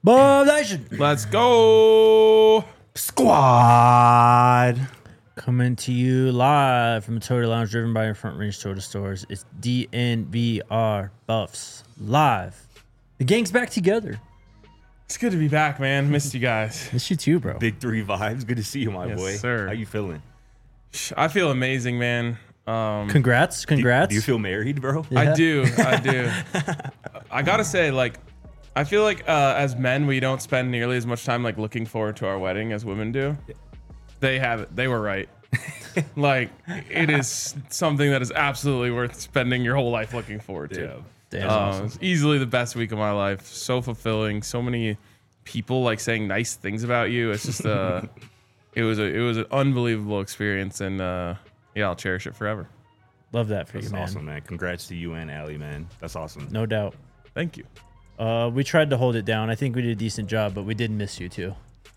Bob Nation Let's go. Squad. Coming to you live from the Toyota Lounge, driven by your Front Range Toyota stores. It's DNVR Buffs live. The gang's back together. It's good to be back, man. Missed you guys. Miss you too, bro. Big three vibes. Good to see you, my Yes, boy. sir. How you feeling? I feel amazing, man. Congrats. Do you feel married, bro? Yeah. I do. I gotta say, like, I feel like as men, we don't spend nearly as much time like looking forward to our wedding as women do. They have it. They were right. Like, it is something that is absolutely worth spending your whole life looking forward to. Yeah. Damn, awesome. It's easily the best week of my life. So fulfilling. So many people like saying nice things about you. It's just it was an unbelievable experience, and yeah, I'll cherish it forever. Love that for That's you, man. awesome, man. Congrats to you and Allie, man. That's awesome. No doubt. Thank you. We tried to hold it down. I think we did a decent job, but we did miss you too.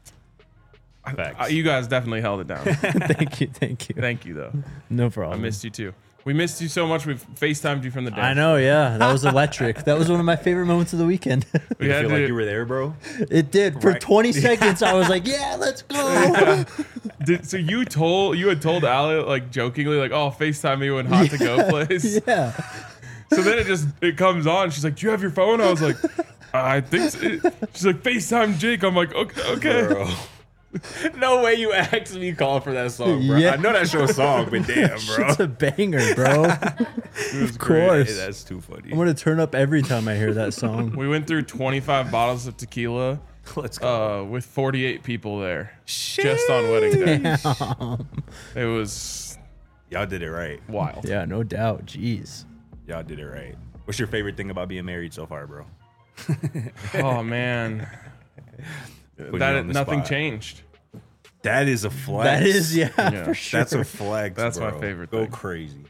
Facts. You guys definitely held it down. Thank you. Thank you, though. No I problem. missed you too. We missed you so much. We FaceTimed you from the day. I know, yeah. That was electric. That was one of my favorite moments of the weekend. We you had feel to, like you were there, bro? It did. For Right. 20 seconds, I was like, yeah, let's go. so you had told Allie like jokingly like, oh, FaceTime me when Hot to Go plays. Yeah. So then it comes on. She's like, do you have your phone? I was like, I think so. She's like, FaceTime Jake. I'm like, okay. Bro. No way you asked me call for that song, bro. Yeah. I know that's your song, but damn, bro. It's a banger, bro. Of course. Hey, that's too funny. I'm going to turn up every time I hear that song. We went through 25 bottles of tequila Let's go. with 48 people there just on wedding day. It was Y'all did it right. wild. Yeah, no doubt. Jeez. Y'all did it right. What's your favorite thing about being married so far, bro? Oh, man. Putting you on the Nothing spot. changed. That is a flex. That is, yeah, Yeah. for sure. That's a flex. That's my bro. favorite Go thing. crazy.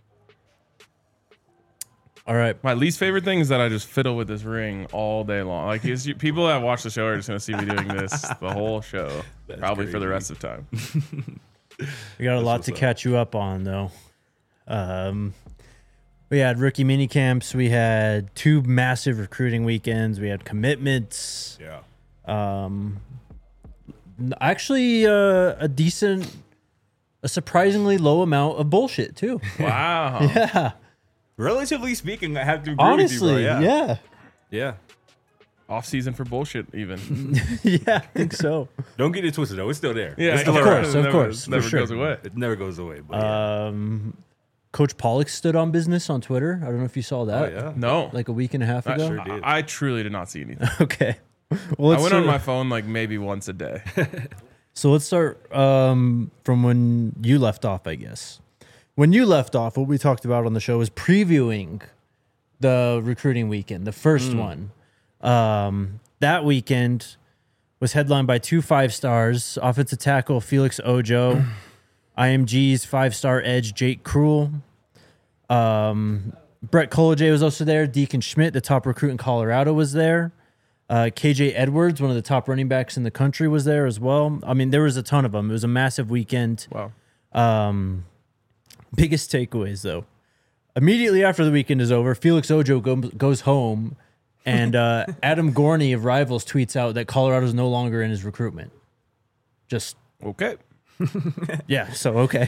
All right. My least favorite thing is that I just fiddle with this ring all day long. Like people that watch the show are just gonna see me doing this the whole show, probably for the crazy. rest of time. We got a lot to catch you up on, though. We had rookie mini camps. We had 2 massive recruiting weekends. We had commitments. Yeah. Actually, a surprisingly low amount of bullshit, too. Wow. Yeah. Relatively speaking, I have to agree Honestly, with you, bro. yeah. Yeah. Off season for bullshit, even. Yeah, I think so. Don't get it twisted, though. It's still there. Yeah, It's still of around. course, it of never, course, never for sure. goes away. It never goes away. But yeah. Coach Pollock stood on business on Twitter. I don't know if you saw Oh, that. yeah. No, Like a week and a half ago. sure did. I truly did not see anything. Okay. Well, I let's went on start- my phone like maybe once a day. So let's start from when you left off, I guess. When you left off, what we talked about on the show was previewing the recruiting weekend, the first one. That weekend was headlined by 2 5-stars, offensive tackle Felix Ojo, IMG's 5-star edge Jake Krull. Brett Colajay was also there. Deacon Schmidt, the top recruit in Colorado, was there. KJ Edwards, one of the top running backs in the country, was there as well. I mean, there was a ton of them. It was a massive weekend. Wow. Biggest takeaways, though. Immediately after the weekend is over, Felix Ojo goes home, and Adam Gorney of Rivals tweets out that Colorado's no longer in his recruitment. Just, Okay. yeah, so okay.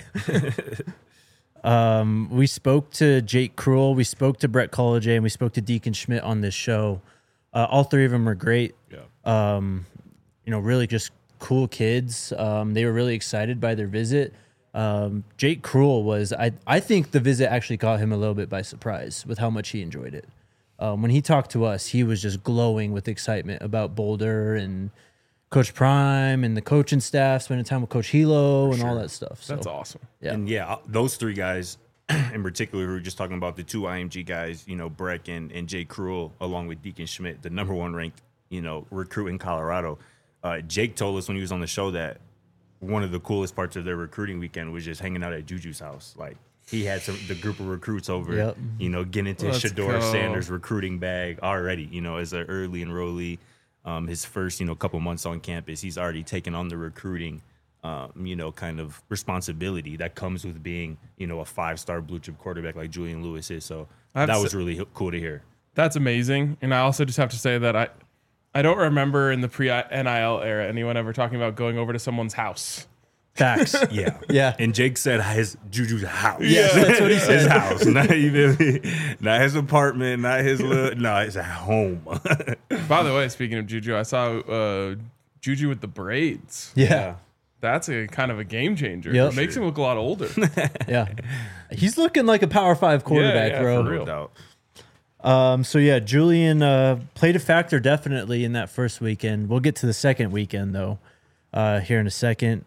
We spoke to Jake Krull, we spoke to Brett Colajay, and we spoke to Deacon Schmidt on this show. All 3 of them are great. Yeah. Really just cool kids. They were really excited by their visit. Jake Krull was, I think the visit actually caught him a little bit by surprise with how much he enjoyed it. When he talked to us, he was just glowing with excitement about Boulder and Coach Prime and the coaching staff, spending time with Coach Hilo and all that stuff. So, That's awesome. yeah. And yeah, those 3 guys in particular, we were just talking about the 2 IMG guys, Breck and Jake Krull, along with Deacon Schmidt, the number 1 ranked, recruit in Colorado. Jake told us when he was on the show that one of the coolest parts of their recruiting weekend was just hanging out at Juju's house. Like, he had the group of recruits over, Yep. Getting into Let's Shador go. Sanders' recruiting bag already, as an early enrollee. His first, couple months on campus, he's already taken on the recruiting, kind of responsibility that comes with being, a 5-star blue chip quarterback like Julian Lewis is. So that was really cool to hear. That's amazing. And I also just have to say that I don't remember in the pre-NIL era anyone ever talking about going over to someone's house. Facts. Yeah. Yeah. And Jake said his Juju's house. Yes, that's what he said. His house. Not even, not his apartment, not his little, no, it's at home. By the way, speaking of Juju, I saw Juju with the braids. Yeah. That's a kind of a game changer. Yep. It makes him look a lot older. Yeah. He's looking like a Power 5 quarterback, yeah, bro. for real. No doubt. So yeah, Julian played a factor definitely in that first weekend. We'll get to the second weekend though, here in a second.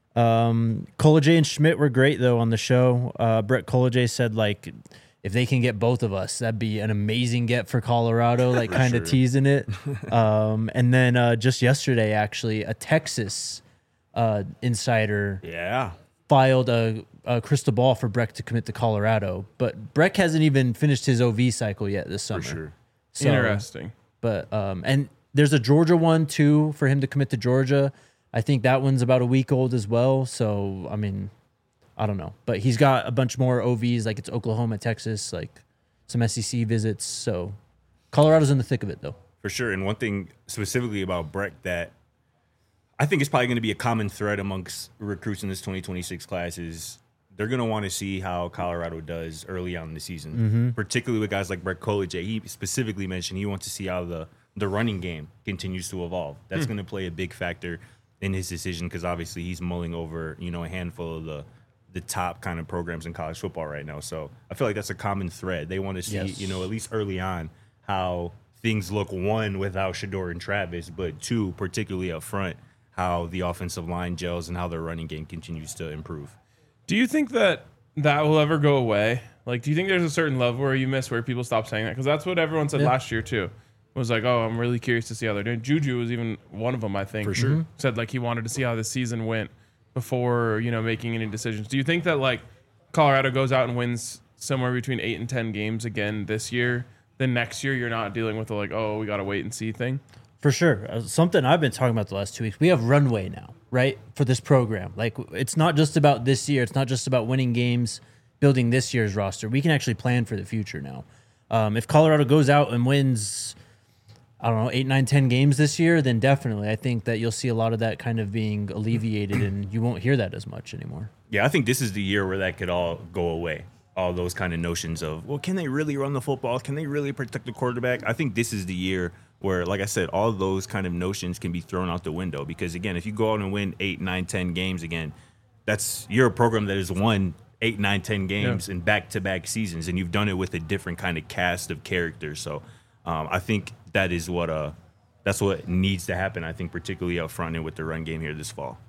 College and Schmidt were great though on the show. Brett College said like, if they can get both of us, that'd be an amazing get for Colorado, like kind of teasing it. And then just yesterday, actually, a Texas insider Yeah. filed a crystal ball for Breck to commit to Colorado, but Breck hasn't even finished his OV cycle yet this summer. For sure. So, Interesting. But and there's a Georgia one too for him to commit to Georgia. I think that one's about a week old as well. So I mean, I don't know, but he's got a bunch more OVs, like it's Oklahoma, Texas, like some SEC visits. So Colorado's in the thick of it though. For sure. And one thing specifically about Breck that I think is probably going to be a common thread amongst recruits in this 2026 class is they're going to want to see how Colorado does early on in the season, particularly with guys like Brett College. He specifically mentioned he wants to see how the running game continues to evolve. That's going to play a big factor in his decision because obviously he's mulling over, a handful of the top kind of programs in college football right now. So I feel like that's a common thread. They want to see, Yes. at least early on, how things look, one, without Shador and Travis, but two, particularly up front, how the offensive line gels and how their running game continues to improve. Do you think that will ever go away? Like, do you think there's a certain level where you miss where people stop saying that? Because that's what everyone said last year too. Was like, oh, I'm really curious to see how they're doing. Juju was even one of them, I think. For sure. Said like he wanted to see how the season went before making any decisions. Do you think that like Colorado goes out and wins somewhere between 8 and 10 games again this year? Then next year you're not dealing with the like, oh, we got to wait and see thing. For sure. Something I've been talking about the last 2 weeks. We have runway now, right? For this program. Like, it's not just about this year. It's not just about winning games, building this year's roster. We can actually plan for the future now. If Colorado goes out and wins, I don't know, 8, 9, 10 games this year, then definitely I think that you'll see a lot of that kind of being alleviated and you won't hear that as much anymore. Yeah, I think this is the year where that could all go away. All those kind of notions of, well, can they really run the football? Can they really protect the quarterback? I think this is the year where, like I said, all those kind of notions can be thrown out the window. Because, again, if you go out and win 8, 9, 10 games again, you're a program that has won 8, 9, 10 games in back-to-back seasons, and you've done it with a different kind of cast of characters. So I think that is that's what needs to happen, I think, particularly up front and with the run game here this fall.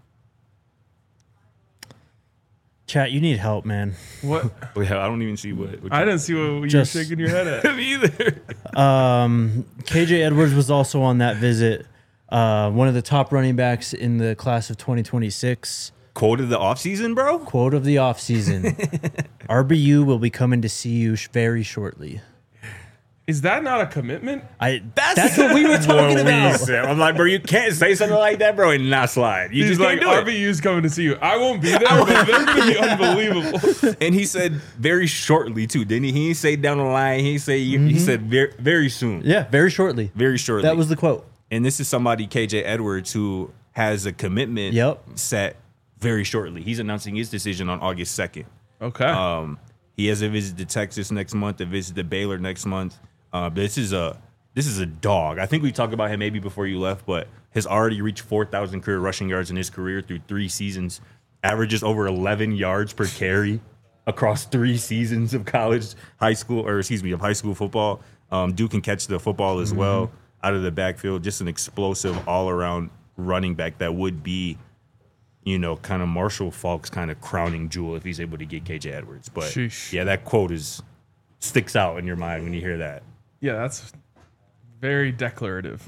Chat, you need help, man. What? Yeah, I don't even see what I didn't see what you were shaking your head at. Me either. KJ Edwards was also on that visit. One of the top running backs in the class of 2026. Quote of the offseason, bro? Quote of the offseason. RBU will be coming to see you very shortly. Is that not a commitment? That's what we were talking about. I'm like, bro, you can't say something like that, bro, and not slide. You He's just like, can't do it. RBU's coming to see you. I won't be there, but they're going to be unbelievable. And he said very shortly, too, didn't he? He didn't say down the line. He said very, very soon. Yeah, very shortly. Very shortly. That was the quote. And this is somebody, KJ Edwards, who has a commitment set very shortly. He's announcing his decision on August 2nd. Okay. He has a visit to Texas next month, a visit to Baylor next month. But this is a dog. I think we talked about him maybe before you left, but has already reached 4,000 career rushing yards in his career through 3 seasons. Averages over 11 yards per carry across 3 seasons of high school football. Dude can catch the football as well out of the backfield. Just an explosive all-around running back that would be, kind of Marshall Faulk's kind of crowning jewel if he's able to get KJ Edwards. But Sheesh. yeah, that quote sticks out in your mind when you hear that. Yeah, that's very declarative.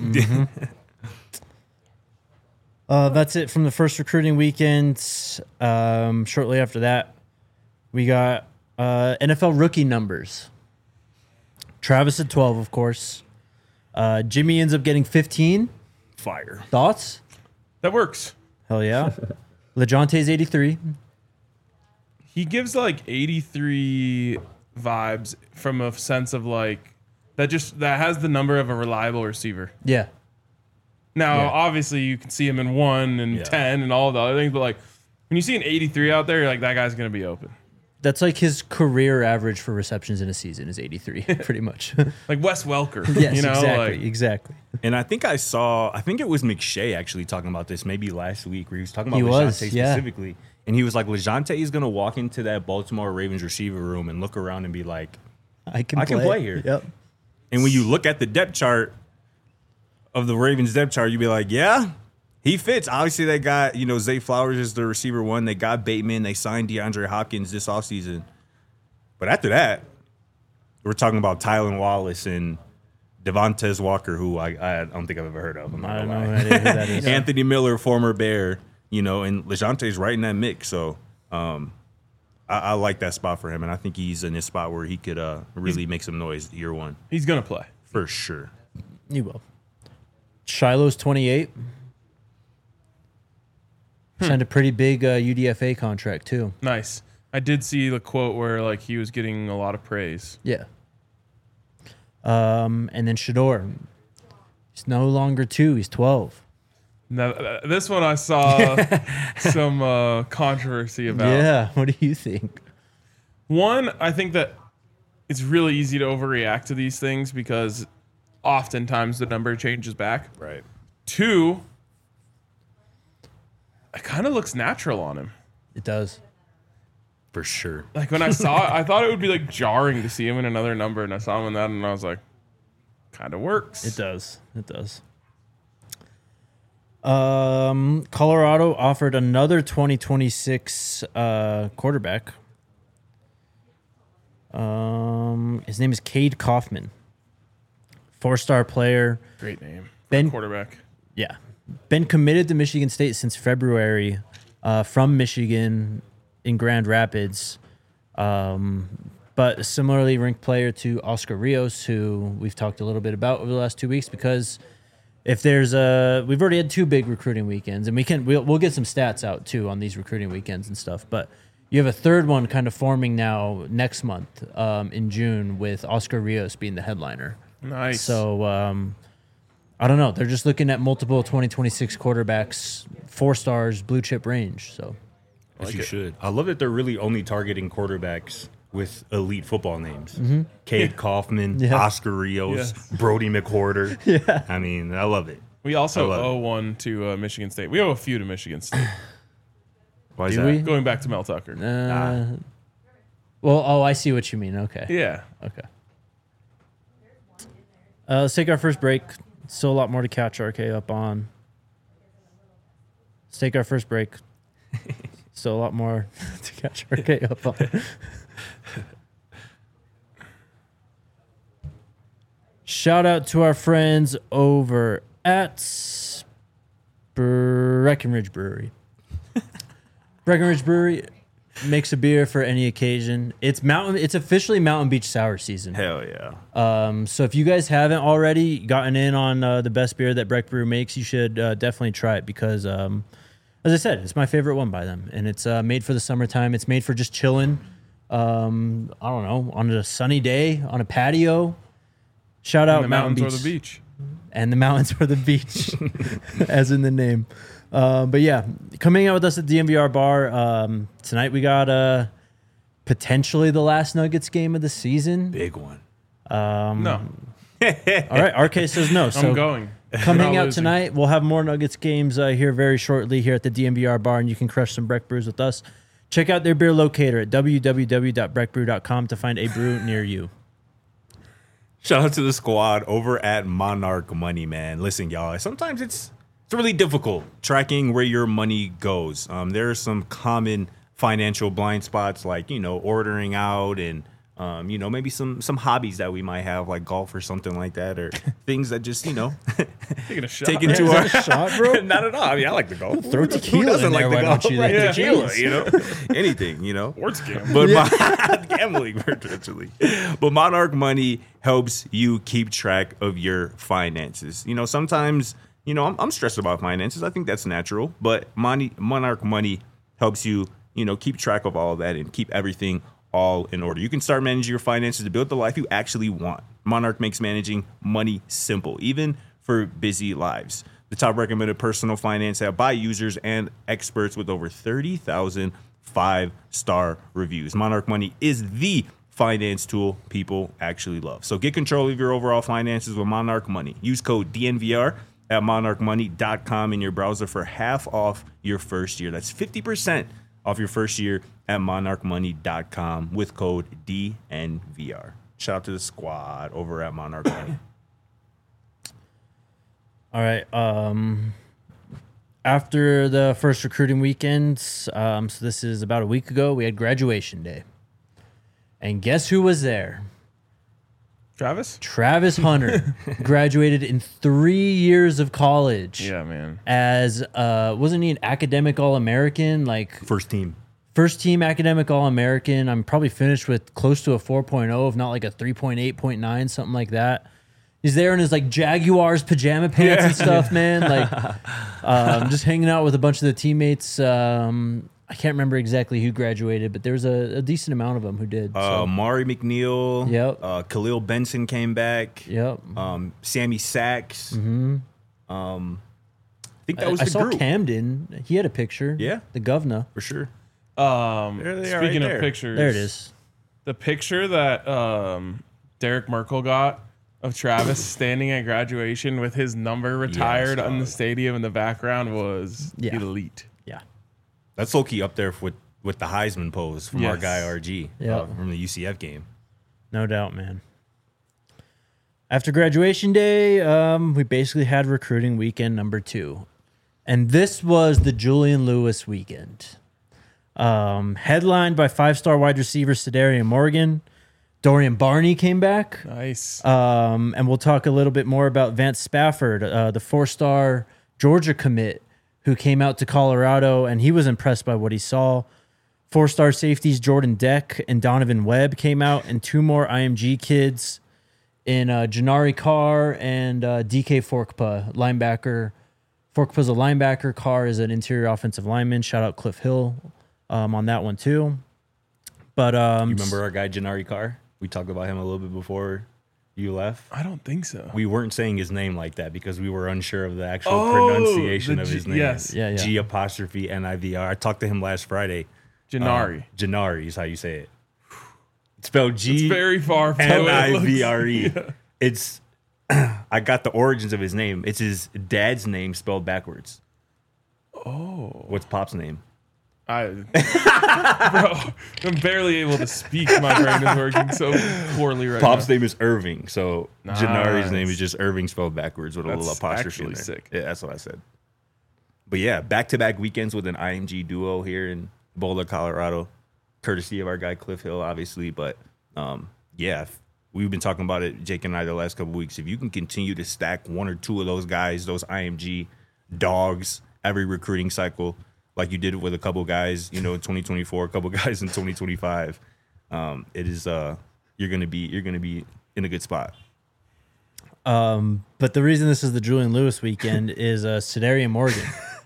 That's it from the first recruiting weekend. Shortly after that, we got NFL rookie numbers. Travis at 12, of course. Jimmy ends up getting 15. Fire. Thoughts? That works. Hell yeah. LeJonte's 83. He gives like 83 vibes from a sense of like that has the number of a reliable receiver. Yeah. Now, Yeah. obviously, you can see him in 1 and 10 and all the other things, but like when you see an 83 out there, you're like, that guy's going to be open. That's like his career average for receptions in a season is 83, pretty much. Like Wes Welker. Yes, you know, exactly, like, exactly. And I think it was McShay actually talking about this maybe last week where he was talking He about was, LeJohntay yeah. specifically. And he was like, LeJohntay is going to walk into that Baltimore Ravens receiver room and look around and be like, I can play here. Yep. and when you look at the depth chart of the Ravens depth chart, you'd be like, yeah, he fits. Obviously, they got, Zay Flowers is the receiver 1. They got Bateman. They signed DeAndre Hopkins this offseason. But after that, we're talking about Tylan Wallace and Devontae Walker, who I don't think I've ever heard of. I'm not I don't gonna know lie. who that is. Anthony Miller, former Bear, and LeJohntay's right in that mix. So I like that spot for him, and I think he's in this spot where he could really make some noise year 1. he's going to play. For sure. You will. Shiloh's 28. Signed a pretty big UDFA contract, too. Nice. I did see the quote where like he was getting a lot of praise. Yeah. And then Shador. He's no longer 2. He's 12. Now, this one I saw some controversy about. Yeah. What do you think? One, I think that it's really easy to overreact to these things because oftentimes the number changes back. Right. 2, it kind of looks natural on him. It does. For sure. Like when I saw it, I thought it would be like jarring to see him in another number, and I saw him in that, and I was like, kind of works. It does. It does. Colorado offered another 2026 quarterback. His name is Cade Kaufman. 4-star player. Great name. Ben- Quarterback. Yeah. Been committed to Michigan State since February from Michigan in Grand Rapids. But similarly ranked player to Oscar Rios, who we've talked a little bit about over the last 2 weeks, because if there's we've already had 2 big recruiting weekends, and we'll get some stats out too on these recruiting weekends and stuff, but you have a third one kind of forming now next month in June with Oscar Rios being the headliner. Nice. So I don't know. They're just looking at multiple 2026 quarterbacks, 4 stars, blue chip range. So As you should. I love that they're really only targeting quarterbacks with elite football names. Cade Kaufman, Yeah. Oscar Rios, Yes. Brody McWhorter. Yeah. I mean, I love it. we also I love owe one to Michigan State. We owe a few to Michigan State. Why is Do that? we? Going back to Mel Tucker. well, I see what you mean. Okay. Yeah. Okay. Let's take our first break. Still a lot more to catch RK up on. Let's take our first break. Still a lot more to catch RK up on. Shout out to our friends over at Breckenridge Brewery. Breckenridge Brewery makes a beer for any occasion. It's officially Mountain Beach Sour season. Hell yeah. So if you guys haven't already gotten in on the best beer that Breck Brew makes, you should definitely try it because, as I said, it's my favorite one by them, and it's made for the summertime. It's made for just chilling. I don't know, on a sunny day on a patio. Shout out The Mountain mountains Beach or the beach. and the mountains or the beach, as in the name. But yeah, coming out with us at the DMVR bar tonight, we got potentially the last Nuggets game of the season. Big one. No. All right, RK says no. So I'm going. come We're hang not out losing. tonight. We'll have more Nuggets games here very shortly here at the DMVR bar, and you can crush some Breck brews with us. Check out their beer locator at www.breckbrew.com to find a brew near you. Shout out to the squad over at Monarch Money, man. Listen, y'all, sometimes it's really difficult tracking where your money goes. There are some common financial blind spots like, ordering out and, maybe some hobbies that we might have like golf or something like that, or things that just, Taking a shot. take into Is our that a shot, bro? Not at all. I mean, I like the golf. Throw tequila Who doesn't in like there, the why golf? don't you? Right? Yeah. Tequila, anything, Sports game. But gambling virtually. But Monarch Money helps you keep track of your finances. Sometimes, I'm stressed about finances. I think that's natural. But Monarch Money helps you, keep track of all of that and keep everything all in order. You can start managing your finances to build the life you actually want. Monarch makes managing money simple, even for busy lives. the top recommended personal finance app by users and experts with over 30,000 5-star reviews. Monarch Money is the finance tool people actually love. So get control of your overall finances with Monarch Money. Use code DNVR at monarchmoney.com in your browser for half off your first year. That's 50% off your first year at monarchmoney.com with code DNVR. Shout out to the squad over at Monarch Money. All right. After the first recruiting weekend, so this is about a week ago, we had graduation day. And guess who was there? Travis Hunter graduated in 3 years of college. Yeah, man. As wasn't he an academic All-American? Like First team academic All-American. I'm probably finished with close to a 4.0, if not like a 3.8, 0.9, something like that. He's there in his like Jaguars pajama pants and stuff, man. Like just hanging out with a bunch of the teammates. I can't remember exactly who graduated, but there was a decent amount of them who did. Mari McNeil. Yep. Khalil Benson came back. Yep. Sammy Sachs. Mm-hmm. I think that was the I saw group. Camden. He had a picture. Yeah. The governor. For sure. There they are speaking right of there. pictures, There it is. The picture that Derek Merkel got of Travis standing at graduation with his number retired on the stadium in the background was elite. Yeah. That's low-key up there with the Heisman pose from our Yes. guy RG from the UCF game. No doubt, man. After graduation day, we basically had recruiting weekend number 2. And this was the Julian Lewis weekend. Headlined by 5-star wide receiver Sedarian Morgan. Dorian Barney came back. Nice. And we'll talk a little bit more about Vance Spafford, the 4-star Georgia commit who came out to Colorado, and he was impressed by what he saw. 4-star safeties Jordan Deck and Donovan Webb came out, and 2 more IMG kids in Janari Carr and DK Forkpa, linebacker. Forkpa's a linebacker. Carr is an interior offensive lineman. Shout out Cliff Hill on that one too. But You remember our guy Janari Carr? We talked about him a little bit before you left. I don't think so. We weren't saying his name like that because we were unsure of the actual pronunciation of his name. yes. Yeah. G apostrophe NIVR. I talked to him last Friday. Janari. Janari is how you say it. It's spelled G. It's very far from the way it looks. NIVRE. It's I got the origins of his name. It's his dad's name spelled backwards. Oh. What's Pop's name? Bro, I'm barely able to speak. My brain is working so poorly right Pop's now. name is Irving, so Janari's name is just Irving spelled backwards with a little That's apostrophe in actually there. sick. Yeah, that's what I said. But yeah, back-to-back weekends with an IMG duo here in Boulder, Colorado, courtesy of our guy Cliff Hill, obviously. But yeah, we've been talking about it, Jake and I, the last couple of weeks. If you can continue to stack 1 or 2 of those guys, those IMG dogs, every recruiting cycle, like you did with a couple guys, in 2024, a couple guys in 2025, it is you're gonna be in a good spot. But the reason this is the Julian Lewis weekend is Sedarian Morgan.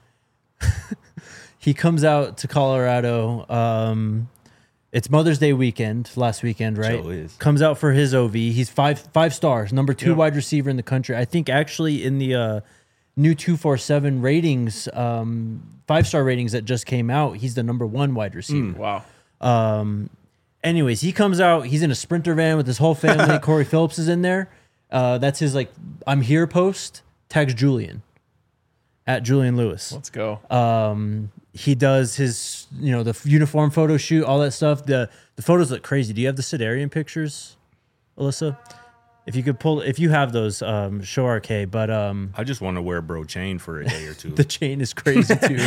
He comes out to Colorado. It's Mother's Day weekend, last weekend, right? Sure is. Comes out for his OV. He's five stars, number 2 wide receiver in the country. I think actually in the new 247 ratings, 5-star ratings that just came out, he's the number 1 wide receiver. Wow. Anyways, he comes out. He's in a Sprinter van with his whole family. Corey Phillips is in there. That's his I'm here post. Tags Julian at Julian Lewis. Let's go. He does his the uniform photo shoot, all that stuff. The photos look crazy. Do you have the Sedarian pictures, Alyssa? If you could if you have those, show RK. But I just want to wear a bro chain for a day or two. the chain is crazy too.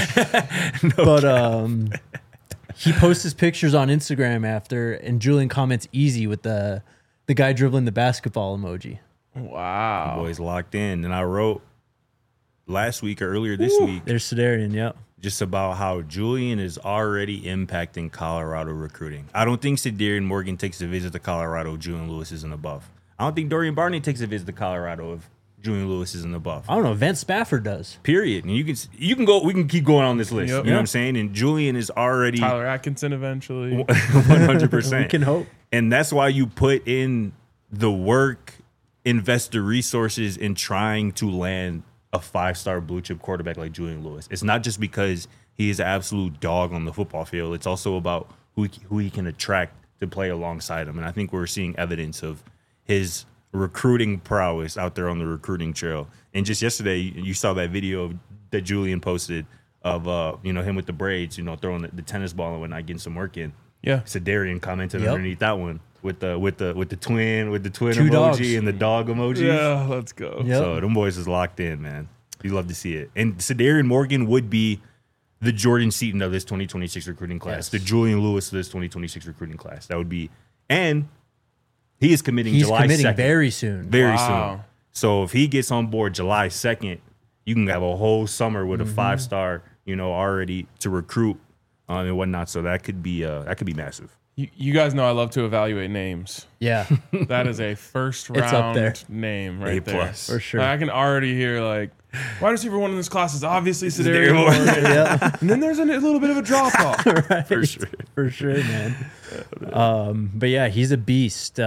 He posts his pictures on Instagram after, and Julian comments easy with the guy dribbling the basketball emoji. Wow. Boys locked in. And I wrote last week or earlier this week There's Sedarian, yep. just about how Julian is already impacting Colorado recruiting. I don't think Sedarian Morgan takes a visit to Colorado if Julian Lewis isn't above. I don't think Dorian Barney takes a visit to Colorado if Julian Lewis isn't above. I don't know. Vance Spafford does. Period. And you can go. We can keep going on this list. Yep. You know what I'm saying? And Julian is already Tyler Atkinson eventually. 100%. We can hope. And that's why you put in the work, invest the resources in trying to land a 5-star blue chip quarterback like Julian Lewis. It's not just because he is an absolute dog on the football field. It's also about who he can attract to play alongside him. And I think we're seeing evidence of his recruiting prowess out there on the recruiting trail. And just yesterday, you saw that video that Julian posted of him with the braids, throwing the tennis ball and whatnot, getting some work in. Yeah. Sedarian commented Yep. underneath that one with the twin Two emoji dogs. and the dog emoji. Yeah, let's go. Yep. So them boys is locked in, man. You love to see it. And Sedarian Morgan would be the Jordan Seaton of this 2026 recruiting class, Yes. the Julian Lewis of this 2026 recruiting class. That would be, and he is committing He's July committing 2nd. very soon. Very Wow. soon. So if he gets on board July 2nd, you can have a whole summer with a 5-star, already to recruit and whatnot. So that could be massive. You guys know I love to evaluate names. Yeah, That is a first It's up there. round name right there. A+. for sure. I can already hear like wide receiver one in this class is obviously Sedarian Sedarian Morgan. Yeah, And then there's a little bit of a drop off. For sure. for sure, man. But yeah, he's a beast.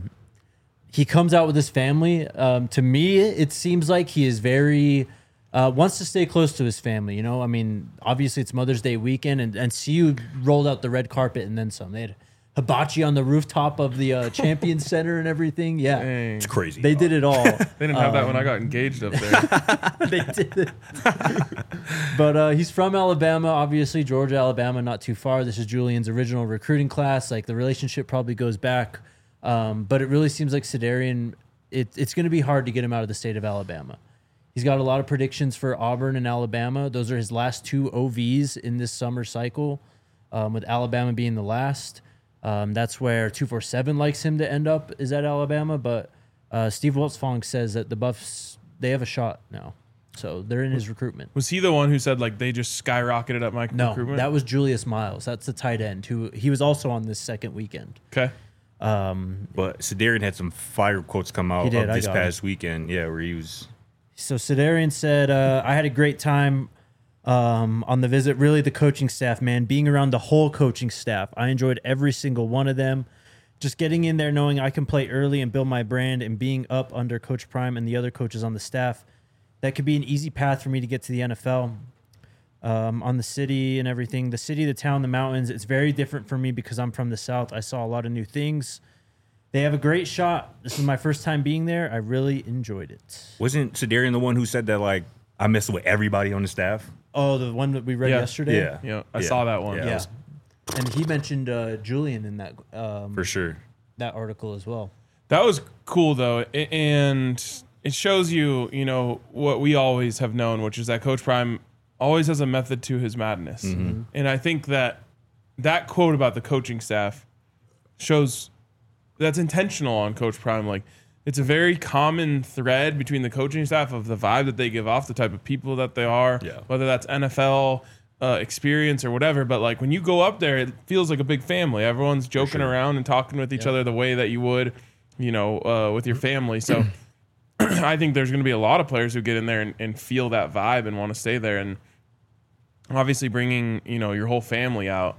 He comes out with his family. To me, it seems like he is very wants to stay close to his family. I mean, obviously it's Mother's Day weekend, and CU rolled out the red carpet and then some. They had hibachi on the rooftop of the Champions Center and everything. Yeah, Dang. It's crazy. they did it all. They didn't have that when I got engaged up there. They did it. But he's from Alabama, obviously Georgia, Alabama, not too far. This is Julian's original recruiting class. Like the relationship probably goes back, but it really seems like Sedarian. It's going to be hard to get him out of the state of Alabama. He's got a lot of predictions for Auburn and Alabama. Those are his last 2 OVs in this summer cycle, with Alabama being the last. That's where 247 likes him to end up, is at Alabama. But Steve Wiltfong says that the Buffs, they have a shot now. So they're in his recruitment. Was he the one who said like they just skyrocketed up my No, recruitment? that was Julius Miles. That's the tight end who he was also on this second weekend. Okay. But Sedarian had some fire quotes come out He did, of I this got past weekend. Yeah, where he was. So Sedarian said, I had a great time on the visit. Really, the coaching staff, man, being around the whole coaching staff. I enjoyed every single one of them. Just getting in there, knowing I can play early and build my brand, and being up under Coach Prime and the other coaches on the staff. That could be an easy path for me to get to the NFL. On the city and everything. The city, the town, the mountains, it's very different for me because I'm from the South. I saw a lot of new things. They have a great shot. This is my first time being there. I really enjoyed it. Wasn't Sedarian the one who said that, like, I messed with everybody on the staff? Oh, the one that we read Yeah. yesterday? Yeah. Yeah, I saw that one. Yeah. Yeah. And he mentioned Julian in that For sure. that article as well. That was cool though, and it shows you, what we always have known, which is that Coach Prime always has a method to his madness. And I think that quote about the coaching staff shows that's intentional on Coach Prime. Like, it's a very common thread between the coaching staff of the vibe that they give off, the type of people that they are, Yeah. whether that's NFL experience or whatever. But like when you go up there, it feels like a big family. Everyone's joking around and talking with each other the way that you would, with your family. So I think there's going to be a lot of players who get in there and feel that vibe and want to stay there. And obviously bringing, your whole family out.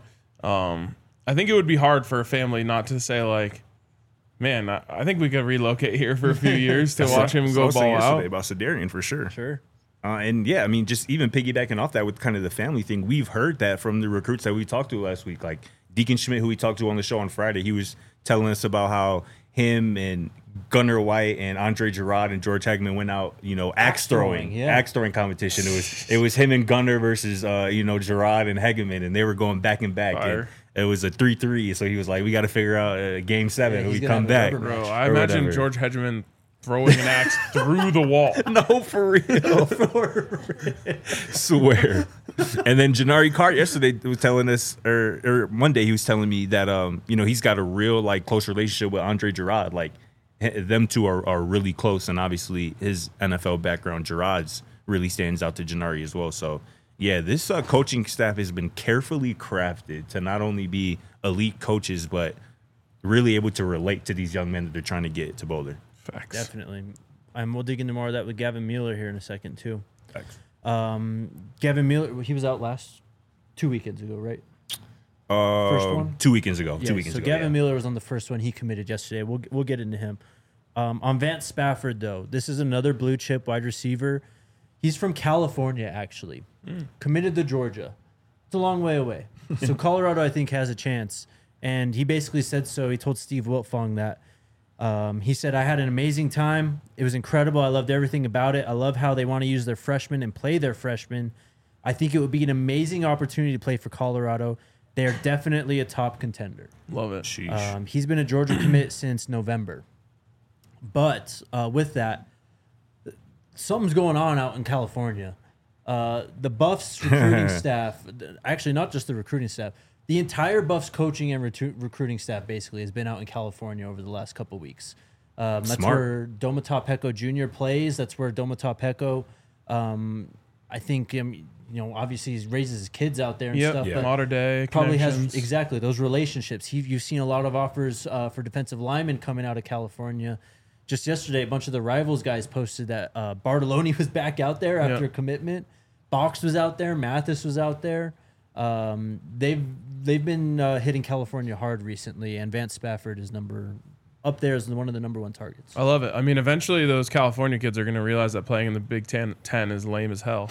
I think it would be hard for a family not to say like, man, I think we could relocate here for a few years to watch him go ball out. About Sedarian for sure. Sure. And yeah, I mean, just even piggybacking off that with kind of the family thing, we've heard that from the recruits that we talked to last week. Like Deacon Schmidt, who we talked to on the show on Friday, he was telling us about how him and Gunnar White and Andre Gerard and George Hagman went out, axe throwing competition. It was him and Gunnar versus Gerard and Hagman, and they were going back and back. Fire. And it was a 3-3. So he was like, we got to figure out game 7 and he's we gonna come have a back. rubber Bro, I Or imagine whatever. George Hedgeman throwing an axe through the wall. No, for real. Swear. And then Janari Cart yesterday was telling us, or Monday he was telling me that he's got a real like close relationship with Andre Gerard. Like them two are really close, and obviously his NFL background, Gerard's really stands out to Janari as well. So yeah, this coaching staff has been carefully crafted to not only be elite coaches, but really able to relate to these young men that they're trying to get to Boulder. Facts. Definitely. And we'll dig into more of that with Gavin Mueller here in a second, too. Thanks. Gavin Mueller, he was out 2 weekends ago, right? First one? 2 weekends ago. Yeah, 2 weekends so ago. Gavin yeah. Mueller was on the first one. He committed yesterday. We'll get into him. On Vance Spafford, though, this is another blue chip wide receiver. He's from California, actually. Committed to Georgia. It's a long way away. So Colorado, I think, has a chance. And he basically said so. He told Steve Wiltfong that. He said, I had an amazing time. It was incredible. I loved everything about it. I love how they want to use their freshmen and play their freshmen. I think it would be an amazing opportunity to play for Colorado. They are definitely a top contender. Love it. Sheesh. He's been a Georgia commit since November. But with that, something's going on out in California. The Buffs recruiting staff, actually not just the recruiting staff, the entire Buffs coaching and recruiting staff basically has been out in California over the last couple weeks. That's Smart. where Domata Peko Jr. plays. That's where Domata Peko, I think, obviously he raises his kids out there and Yep. stuff. Yeah. But Modern day probably has connections. exactly those relationships. You've seen a lot of offers for defensive linemen coming out of California. Just yesterday, a bunch of the Rivals guys posted that Bartoloni was back out there after Yep. a commitment. Box was out there. Mathis was out there. They've been hitting California hard recently, and Vance Spafford is up there as one of the number one targets. I love it. I mean, eventually those California kids are going to realize that playing in the Big Ten is lame as hell,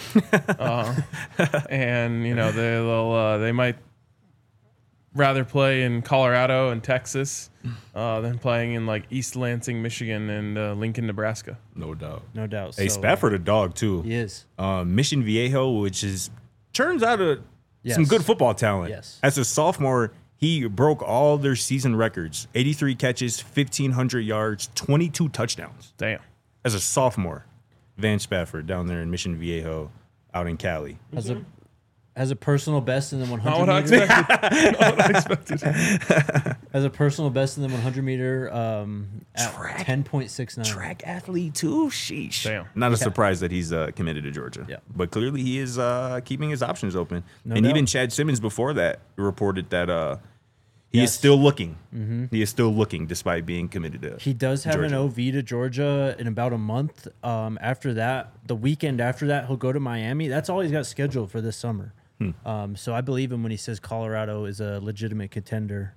and they might rather play in Colorado and Texas than playing in like East Lansing, Michigan, and Lincoln, Nebraska. No doubt. No doubt. Hey, So, Spafford a dog too. He is. Mission Viejo, which turns out some Yes. good football talent. Yes. As a sophomore, he broke all their season records: 83 catches, 1,500 yards, 22 touchdowns. Damn. As a sophomore, Van Spafford down there in Mission Viejo, out in Cali. Has a personal best in the 100 Not what I meter. expected. Not what I expected. Has a personal best in the 100 meter at Track. 10.69. Track athlete too. Sheesh. Damn. Not a surprise that he's committed to Georgia. Yeah. But clearly he is keeping his options open. No and doubt. even Chad Simmons before that reported that he is Yes. still looking. He is still looking despite being committed to He does have an Georgia. OV to Georgia in about a month. After that, the weekend after that, he'll go to Miami. That's all he's got scheduled for this summer. So I believe him when he says Colorado is a legitimate contender.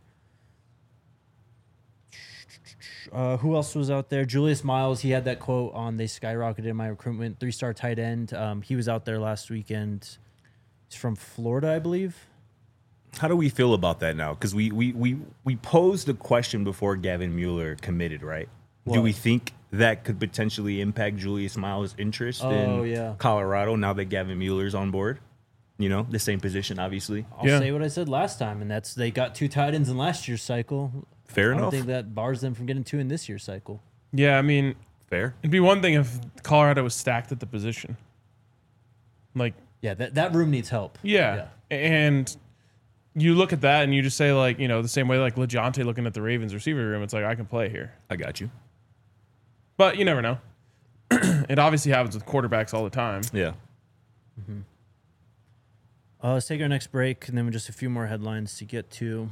Who else was out there? Julius Miles. He had that quote on "They skyrocketed in my recruitment." 3-star tight end. He was out there last weekend. He's from Florida, I believe. How do we feel about that now? Because we posed the question before Gavin Mueller committed, right? Do What? we think that could potentially impact Julius Miles' interest Oh, in yeah. Colorado now that Gavin Mueller's on board? The same position, obviously. I'll Yeah. say what I said last time, and that's they got 2 tight ends in last year's cycle. Fair I don't enough. think that bars them from getting 2 in this year's cycle. Yeah, I mean, Fair. it'd be one thing if Colorado was stacked at the position. Like, Yeah, that room needs help. yeah. And you look at that and you just say, like, the same way like LeJonte looking at the Ravens receiver room, it's like, I can play here. I got you. But you never know. It obviously happens with quarterbacks all the time. Yeah. Let's take our next break, and then just a few more headlines to get to.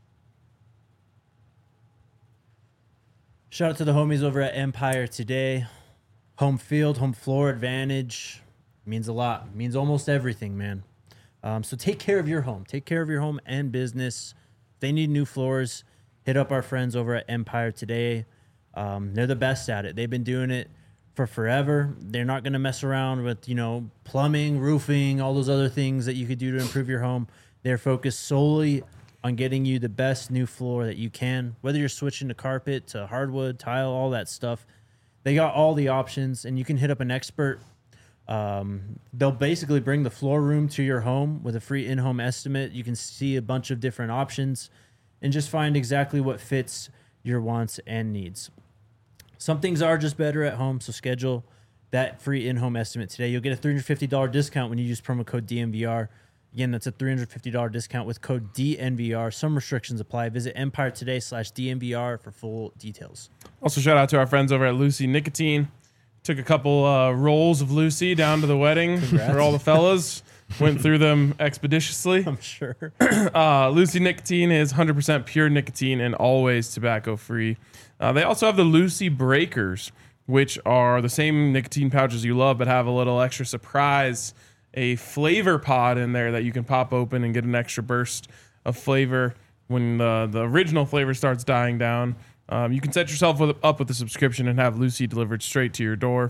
Shout out to the homies over at Empire today. Home field, home floor advantage means a lot. Means almost everything, man. So take care of your home. Take care of your home and business. If they need new floors, hit up our friends over at Empire today. They're the best at it. They've been doing it for forever. They're not going to mess around with, plumbing, roofing, all those other things that you could do to improve your home. They're focused solely on getting you the best new floor that you can, whether you're switching to carpet, to hardwood, tile, all that stuff. They got all the options, and you can hit up an expert. They'll basically bring the floor room to your home with a free in-home estimate. You can see a bunch of different options and just find exactly what fits your wants and needs. Some things are just better at home, so schedule that free in-home estimate today. You'll get a $350 discount when you use promo code DNVR. Again, that's a $350 discount with code DNVR. Some restrictions apply. Visit Empire today/DNVR for full details. Also, shout out to our friends over at Lucy Nicotine. Took a couple rolls of Lucy down to the wedding for all the fellas. Went through them expeditiously. I'm sure. Lucy Nicotine is 100% pure nicotine and always tobacco-free. They also have the Lucy Breakers, which are the same nicotine pouches you love, but have a little extra surprise, a flavor pod in there that you can pop open and get an extra burst of flavor when the original flavor starts dying down. You can set yourself up with a subscription and have Lucy delivered straight to your door.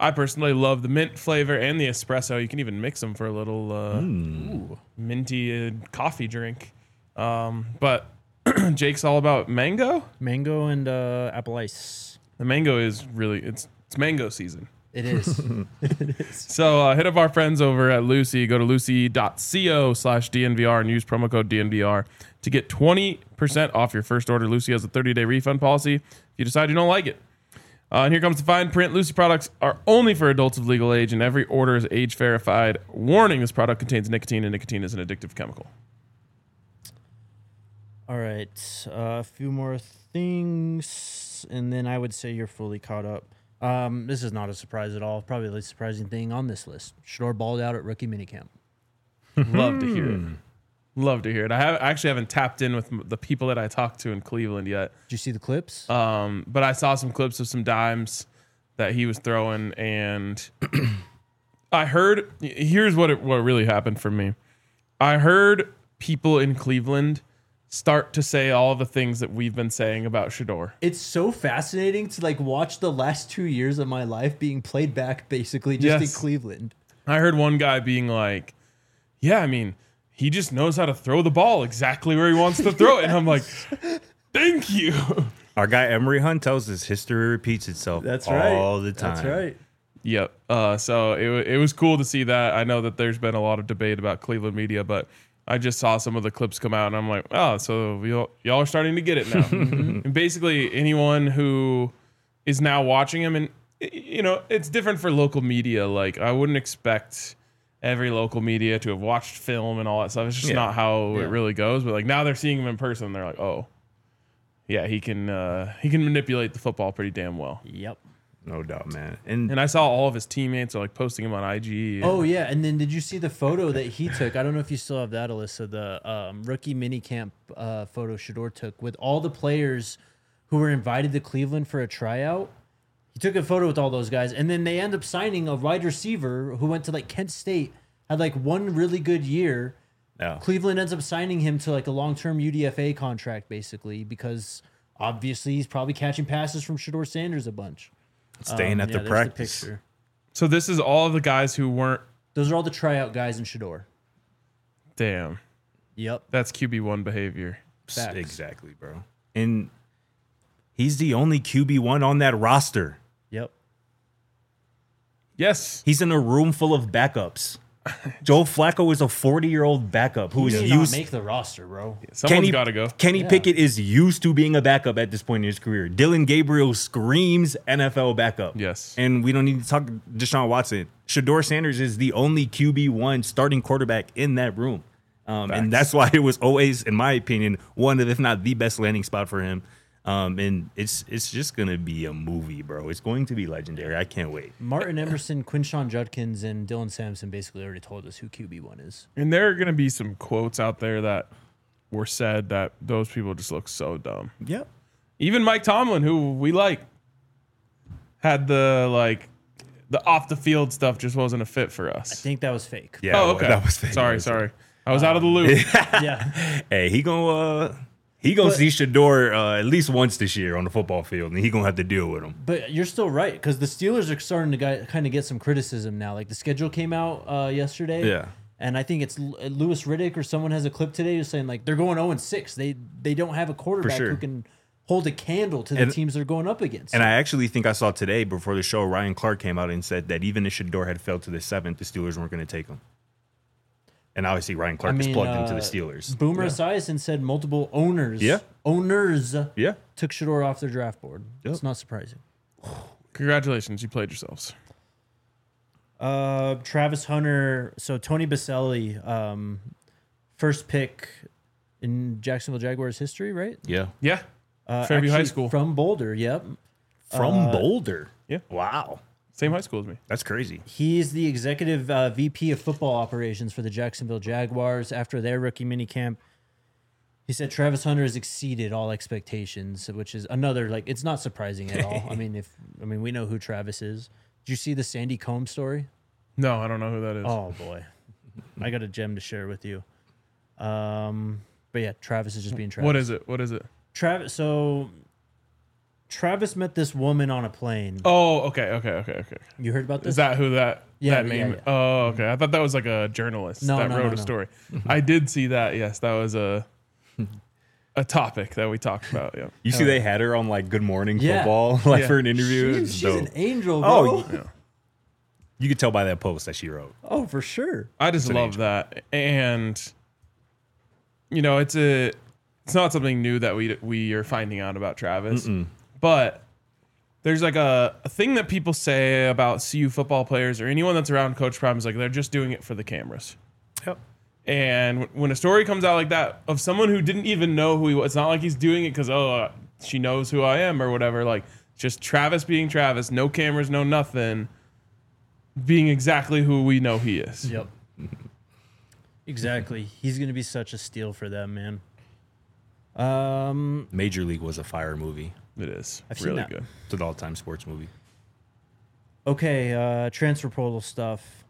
I personally love the mint flavor and the espresso. You can even mix them for a little minty coffee drink. But Jake's all about mango. Mango and apple ice. The mango is really it's mango season. It is. So hit up our friends over at Lucy. Go to lucy.co/DNVR and use promo code DNVR to get 20% off your first order. Lucy has a 30-day refund policy if you decide you don't like it. And here comes the fine print. Lucy products are only for adults of legal age, and every order is age verified. Warning, this product contains nicotine, and nicotine is an addictive chemical. All right. A few more things, and then I would say you're fully caught up. This is not a surprise at all. Probably the least surprising thing on this list. Shador balled out at rookie minicamp. Love to hear it. Love to hear it. I actually haven't tapped in with the people that I talked to in Cleveland yet. Did you see the clips? But I saw some clips of some dimes that he was throwing, and I heard. Here's what really happened for me. I heard people in Cleveland start to say all the things that we've been saying about Shador. It's so fascinating to like watch the last 2 years of my life being played back basically just in Cleveland. I heard one guy being like, yeah, I mean, he just knows how to throw the ball exactly where he wants to throw it. And I'm like, thank you. Our guy Emery Hunt tells us history repeats itself all the time. That's right. Yep. So it was cool to see that. I know that there's been a lot of debate about Cleveland media, but I just saw some of the clips come out, and I'm like, oh, so y'all are starting to get it now. And basically, anyone who is now watching him, and you know, it's different for local media. Like, I wouldn't expect every local media to have watched film and all that stuff. It's just not how it really goes. But like now they're seeing him in person, and they're like, oh, yeah, he can manipulate the football pretty damn well. Yep. No doubt, man. And I saw all of his teammates are like posting him on IG. Oh yeah, and then did you see the photo that he took? I don't know if you still have that, Alyssa. The rookie minicamp photo Shador took with all the players who were invited to Cleveland for a tryout. He took a photo with all those guys, and then they end up signing a wide receiver who went to like Kent State, had like one really good year. Yeah. Cleveland ends up signing him to like a long-term UDFA contract, basically, because obviously he's probably catching passes from Shador Sanders a bunch. Staying at the there's practice. picture. So this is all of the guys who weren't. Those are all the tryout guys in Shador. Damn. Yep. That's QB1 behavior. Facts. Exactly, bro. And he's the only QB1 on that roster. Yep. Yes. He's in a room full of backups. Joe Flacco is a 40-year-old backup who He is may not used. make the roster, bro. Someone's got to go. Kenny Pickett is used to being a backup at this point in his career. Dylan Gabriel screams NFL backup. Yes. And we don't need to talk Deshaun Watson. Shador Sanders is the only QB1 starting quarterback in that room. And that's why it was always, in my opinion, one of, if not the best landing spot for him. And it's just going to be a movie, bro. It's going to be legendary. I can't wait. Martin Emerson, Quinshon Judkins, and Dylan Sampson basically already told us who QB1 is. And there are going to be some quotes out there that were said that those people just look so dumb. Yep. Even Mike Tomlin, who we like, had the off the field stuff just wasn't a fit for I us. think that was fake. Yeah. Oh, okay. That was fake. Sorry. I was out of the loop. Yeah. Hey, he gonna see Shador at least once this year on the football field, and he gonna have to deal with him. But you're still right, because the Steelers are starting to kind of get some criticism now. Like the schedule came out yesterday. Yeah. And I think it's Louis Riddick or someone has a clip today just saying like they're going 0-6. They don't have a quarterback sure. who can hold a candle to the teams they're going up against. And I actually think I saw today before the show, Ryan Clark came out and said that even if Shador had fell to the 7th, the Steelers weren't going to take him. And obviously Ryan Clark is plugged into the Steelers. Boomer Esiason said multiple owners Yeah. took Shador off their draft board. Yep. It's not surprising. Congratulations, you played yourselves. Travis Hunter. So Tony Baselli, first pick in Jacksonville Jaguars history, right? Yeah. Yeah. Fairview High Actually School. from Boulder. Yep. From Boulder. Yeah. Wow. Same high school as me. That's crazy. He's the executive VP of football operations for the Jacksonville Jaguars after their rookie minicamp. He said Travis Hunter has exceeded all expectations, which is another, like, it's not surprising at all. I mean, we know who Travis is. Did you see the Sandy Combs story? No, I don't know who that is. Oh boy, I got a gem to share with you. But yeah, Travis is just being Travis. What is it? Travis Travis met this woman on a plane. Oh, okay. You heard about this? Is that who that Yeah, that yeah, name? yeah. Oh, okay. I thought that was like a journalist No, that no, wrote no, a no. story. I did see that. Yes, that was a topic that we talked about. Yeah. You see, they had her on like Good Morning Yeah. Football, like Yeah. for an interview. It's She's dope. an angel, bro. Oh, Yeah. You could tell by that post that she wrote. Oh, for sure. I just an love angel. that, and it's not something new that we are finding out about Travis, but there's like a thing that people say about CU football players or anyone that's around Coach Prime is like they're just doing it for the cameras. Yep. And when a story comes out like that of someone who didn't even know who he was, it's not like he's doing it because she knows who I am or whatever. Like just Travis being Travis, no cameras, no nothing, being exactly who we know he is. Yep. Exactly. He's going to be such a steal for them, man. Major League was a fire movie. It is I've seen really that. good. It's an all-time sports movie. Okay, transfer portal stuff.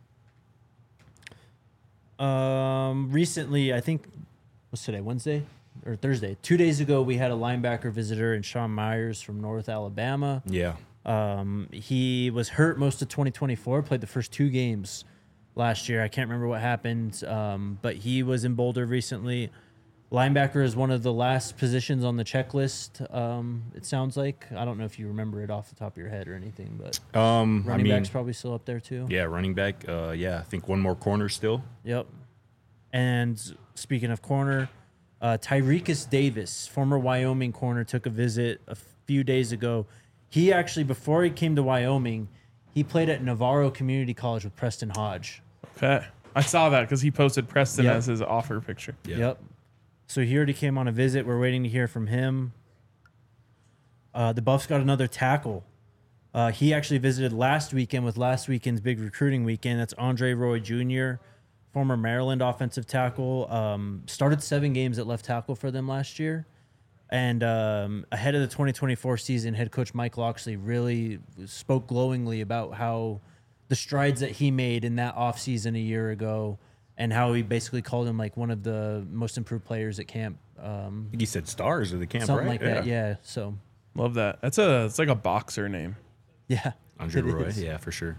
Recently, I think, what's today, Wednesday or Thursday? 2 days ago, we had a linebacker visitor in Sean Myers from North Alabama. Yeah. He was hurt most of 2024, played the first 2 games last year. I can't remember what happened, but he was in Boulder recently. Linebacker is one of the last positions on the checklist, it sounds like. I don't know if you remember it off the top of your head or anything, but running back's probably still up there too. Yeah, running back. Yeah, I think one more corner still. Yep. And speaking of corner, Tyrekus Davis, former Wyoming corner, took a visit a few days ago. He actually, before he came to Wyoming, he played at Navarro Community College with Preston Hodge. Okay. I saw that because he posted Preston Yep. as his offer picture. Yeah. Yep. So he already came on a visit. We're waiting to hear from him. The Buffs got another tackle. He actually visited last weekend with last weekend's big recruiting weekend. That's Andre Roy Jr., former Maryland offensive tackle. Started 7 games at left tackle for them last year. And ahead of the 2024 season, head coach Mike Loxley really spoke glowingly about how the strides that he made in that offseason a year ago and how he basically called him like one of the most improved players at camp. I think he said stars of the camp, Something right? like that, yeah. So, Love that. It's like a boxer name. yeah. Andre it Roy. is. Yeah, for sure.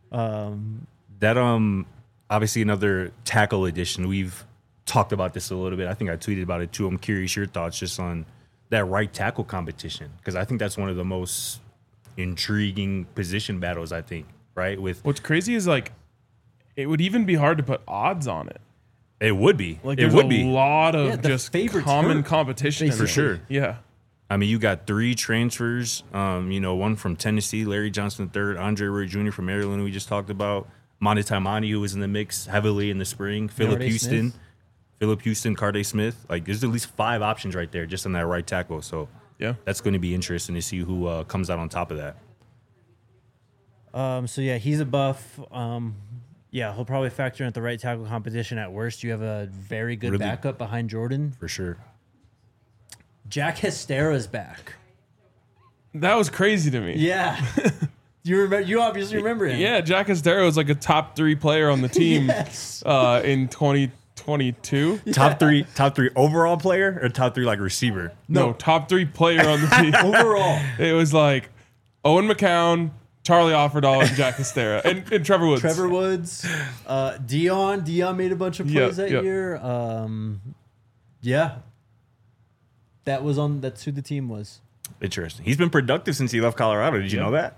That obviously another tackle edition. We've talked about this a little bit. I think I tweeted about it too. I'm curious your thoughts just on that right tackle competition because I think that's one of the most intriguing position battles. I think right with What's crazy is like it would even be hard to put odds on it. it would be Like it there's would a be. lot of Yeah, the just favorite's common hurt, competition in For there. sure. Yeah. I mean, you got 3 transfers. One from Tennessee, Larry Johnson III, Andre Roy Jr. from Maryland, who we just talked about. Monty Taimani, who was in the mix heavily in the spring. Philip Carday Houston, Smith. Carday Smith. Like, there's at least 5 options right there just on that right tackle. So Yeah. that's going to be interesting to see who comes out on top of that. So yeah, he's a buff. Yeah, he'll probably factor in at the right tackle competition at worst. You have a very good Really? backup behind Jordan. For sure. Jack Hestera's back. That was crazy to me. Yeah. You remember? You obviously remember him. Yeah, Jack Estero was like a top 3 player on the team Yes. in 2022. Top three overall player or top 3 like receiver? No, top 3 player on the team. Overall. It was like Owen McCown, Charlie Offerdahl, and Jack Estera, and Trevor Woods. Trevor Woods, Dion made a bunch of plays that yep. year. Yeah, that's who the team was. Interesting. He's been productive since he left Colorado. Did you know that?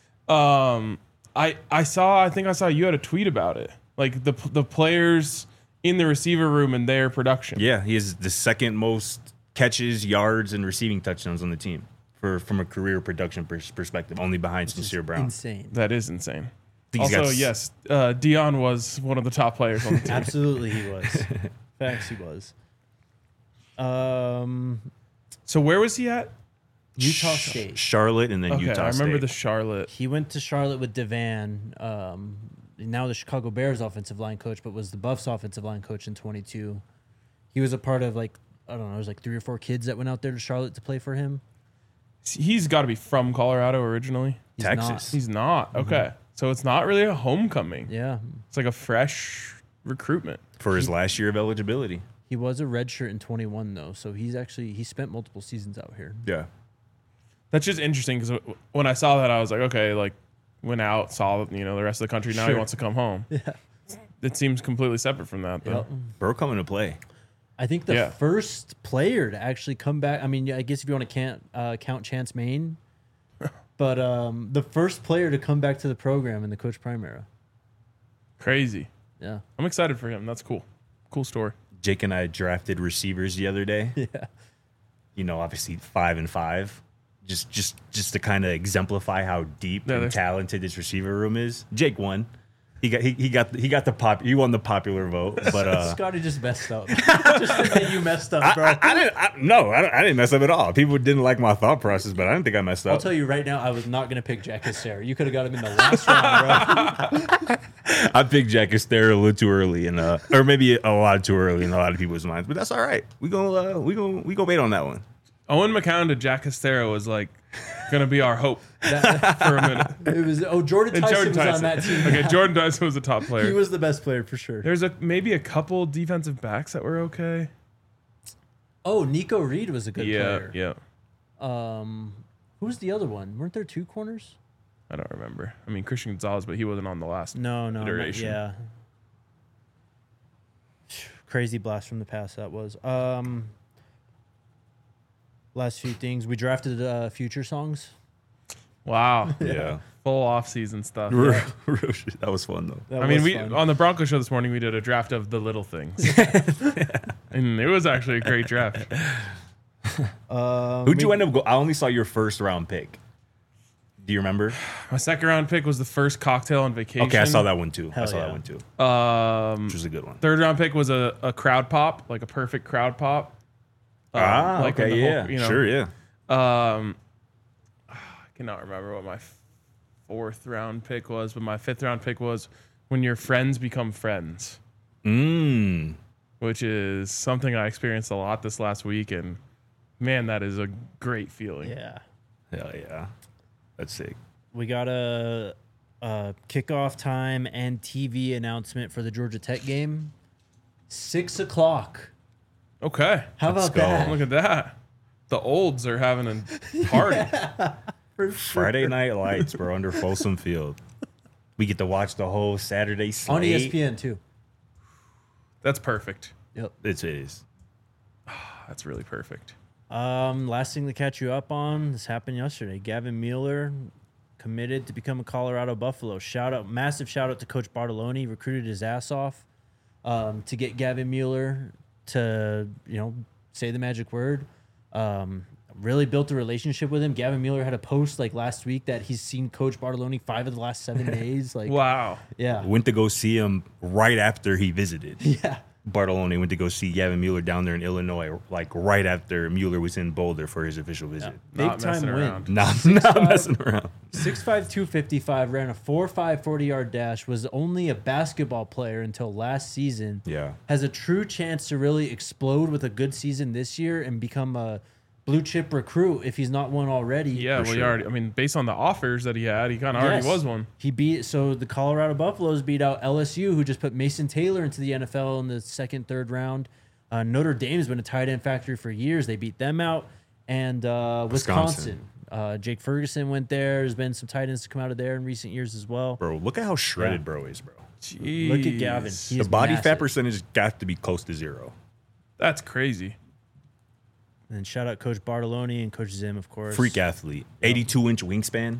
I think I saw you had a tweet about it. Like the players in the receiver room and their production. Yeah, he has the second most catches, yards, and receiving touchdowns on the team from a career production perspective, only behind Sincere Brown. Insane. That is insane. Think he's Also, got yes, Dion was one of the top players on the team. Absolutely, he was. Facts, he was. So where was he at? Utah State. Charlotte and then Okay, Utah I remember State. the Charlotte. He went to Charlotte with Devan, now the Chicago Bears offensive line coach, but was the Buffs offensive line coach in 22. He was a part of it was like 3 or 4 kids that went out there to Charlotte to play for him. He's got to be from Colorado originally. He's Texas. not. He's not. Okay. So it's not really a homecoming. Yeah. It's like a fresh recruitment. For his last year of eligibility. He was a redshirt in 21 though, so he spent multiple seasons out here. Yeah. That's just interesting because when I saw that, I was like, okay, like went out, saw the rest of the country. Now he Sure. wants to come home. Yeah, it seems completely separate from that, though. Yep. Bro coming to play. I think the Yeah. first player to actually come back. I mean, I guess if you want to count Chance Main, but the first player to come back to the program in the Coach Prime era. Crazy. Yeah. I'm excited for him. That's cool. Cool story. Jake and I drafted receivers the other day. Yeah. You know, obviously 5 and 5. Just to kind of exemplify how deep and talented this receiver room is. Jake won. He won the popular vote, but Scotty just messed up. Just admit you messed up, bro. I didn't mess up at all. People didn't like my thought process, but I didn't think I messed up. I'll tell you right now, I was not going to pick Jack Castera. You could have got him in the last round, bro. I picked Jack Castera a little too early, and or maybe a lot too early in a lot of people's minds, but that's all right. We gonna wait on that one. Owen McCown to Jack Castera was like going to be our hope for a minute. It was Jordan Tyson was on that team. Okay, Jordan Tyson was a top player. He was the best player for sure. There's maybe a couple defensive backs that were okay. Oh, Nico Reed was a good player. Yeah. Who's the other one? Weren't there two corners? I don't remember. I mean, Christian Gonzalez, but he wasn't on the last iteration. Yeah. Crazy blast from the past that was. Last few things. We drafted future songs. Wow. Yeah. Full off-season stuff. That was fun though. That I mean, was we fun. on the Broncos show this morning, we did a draft of the little things. And it was actually a great draft. Who'd you end up I only saw your first round pick. Do you remember? My second round pick was the first cocktail on vacation. Okay, I saw that one too. Hell yeah. Which was a good one. Third round pick was a crowd pop, like a perfect crowd pop. Like when okay, the yeah. whole, you know, Sure, yeah. I cannot remember what my fourth round pick was, but my fifth round pick was when your friends become friends, which is something I experienced a lot this last week, and man, that is a great feeling. Yeah. Hell yeah. That's sick. We got a kickoff time and TV announcement for the Georgia Tech game. 6 o'clock. Okay, How Let's about go. that? look at that. The olds are having a party. For sure. Friday Night Lights, bro, under Folsom Field. We get to watch the whole Saturday slate. On ESPN too. That's perfect. Yep. It is. That's really perfect. Last thing to catch you up on, this happened yesterday. Gavin Mueller committed to become a Colorado Buffalo. Massive shout out to Coach Bartoloni. Recruited his ass off to get Gavin Mueller to, say the magic word. Really built a relationship with him. Gavin Mueller had a post like last week that he's seen Coach Bartoloni 5 of the last 7 days. Like, Wow. yeah, Went to go see him right after he visited. yeah. Bartoloni went to go see Gavin Mueller down there in Illinois, like right after Mueller was in Boulder for his official visit. Big Not time messing win. around. Not messing around. 6'5", 255, ran a 4.5 40-yard dash, was only a basketball player until last season. Yeah. Has a true chance to really explode with a good season this year and become a blue chip recruit if he's not one already. Yeah, well, sure. based on the offers that he had, he kind of already was one. He the Colorado Buffaloes beat out LSU, who just put Mason Taylor into the NFL in the second, third round. Notre Dame's been a tight end factory for years. They beat them out. And Wisconsin. Jake Ferguson went there. There's been some tight ends to come out of there in recent years as well. Bro, look at how shredded bro is, bro. Jeez. Look at Gavin. He The is body massive. fat percentage got to be close to 0. That's crazy. And shout out Coach Bartoloni and Coach Zim, of course. Freak athlete. 82-inch wingspan.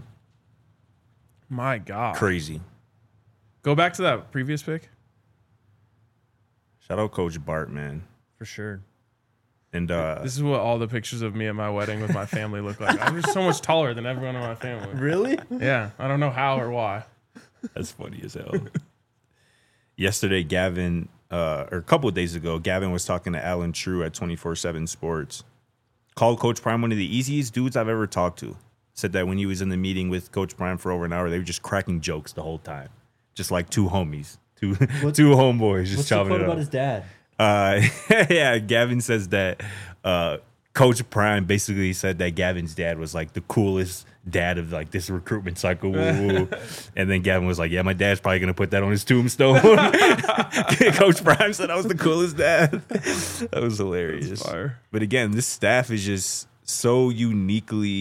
My God. Crazy. Go back to that previous pick. Shout out Coach Bart, man. For sure. And This is what all the pictures of me at my wedding with my family look like. I'm just so much taller than everyone in my family. Really? Yeah, I don't know how or why. that's funny as hell. Yesterday, Gavin, or a couple of days ago, Gavin was talking to Alan True at 24/7 Sports. Called Coach Prime one of the easiest dudes I've ever talked to. Said that when he was in the meeting with Coach Prime for over an hour, they were just cracking jokes the whole time. Just like two homies, two homeboys just What's the chopping quote it about up. his dad? Yeah, Gavin says that Coach Prime basically said that Gavin's dad was like the coolest dad of like this recruitment cycle. Woo. And then Gavin was like, yeah, my dad's probably going to put that on his tombstone. Coach Prime said I was the coolest dad. That was hilarious. That's fire. But again, this staff is just so uniquely